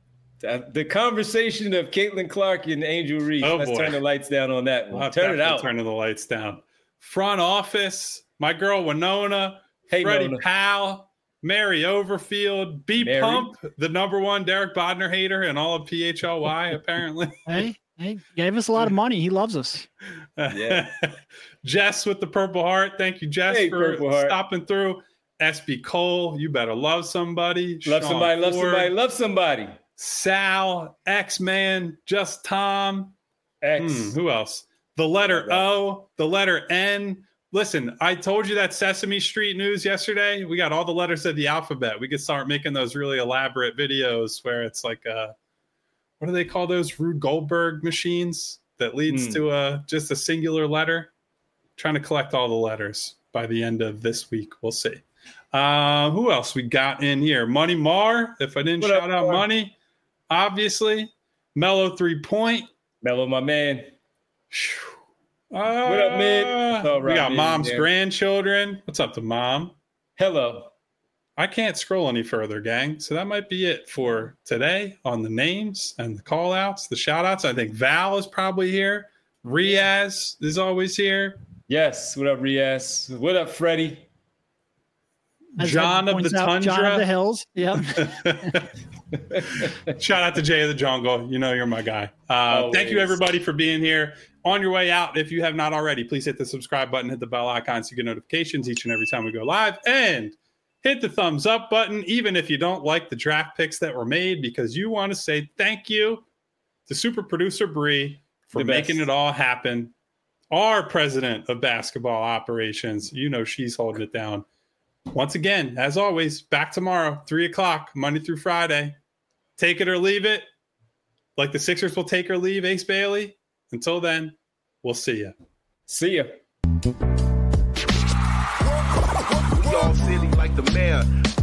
S1: the conversation of Caitlin Clark and Angel Reese.
S2: Oh,
S1: let's turn the lights down on that one. Turn it out.
S2: Turning the lights down. Front office, my girl Winona,
S1: hey,
S2: Freddie
S1: Nona.
S2: Powell, Mary Overfield, B-Pump, the #1 Derek Bodner hater and all of PHLY, apparently.
S3: Hey, gave us a lot of money. He loves us.
S1: Yeah.
S2: Jess with the Purple Heart. Thank you, Jess, for stopping through. SB Cole, you better love somebody.
S1: Love somebody, love somebody, love somebody.
S2: Sal, X-Man, Just Tom.
S1: X.
S2: Who else? The letter O, the letter N. Listen, I told you that Sesame Street news yesterday. We got all the letters of the alphabet. We could start making those really elaborate videos where it's like, what do they call those? Rube Goldberg machines that leads to just a singular letter. Trying to collect all the letters by the end of this week. We'll see. Who else we got in here? Money Marr. If I didn't shout out Money, obviously. Mellow 3-point.
S1: Mellow, my man.
S2: What
S1: up, Mid?
S2: We got Mom's grandchildren. What's up to Mom?
S1: Hello.
S2: I can't scroll any further, gang. So that might be it for today on the names and the call outs, the shout outs. I think Val is probably here. Riaz is always here.
S1: Yes. What up, Riaz? What up, Freddie?
S2: John of the Tundra.
S3: John of the Hills. Yep.
S2: Shout out to Jay of the Jungle. You know you're my guy. Thank you, everybody, for being here. On your way out, if you have not already, please hit the subscribe button, hit the bell icon so you get notifications each and every time we go live, and hit the thumbs up button, even if you don't like the draft picks that were made, because you want to say thank you to super producer Bree for making it all happen. Our president of basketball operations, you know she's holding it down. Once again, as always, back tomorrow, 3:00, Monday through Friday. Take it or leave it. Like the Sixers will take or leave Ace Bailey. Until then, we'll see you.
S1: See ya.
S4: like the mayor.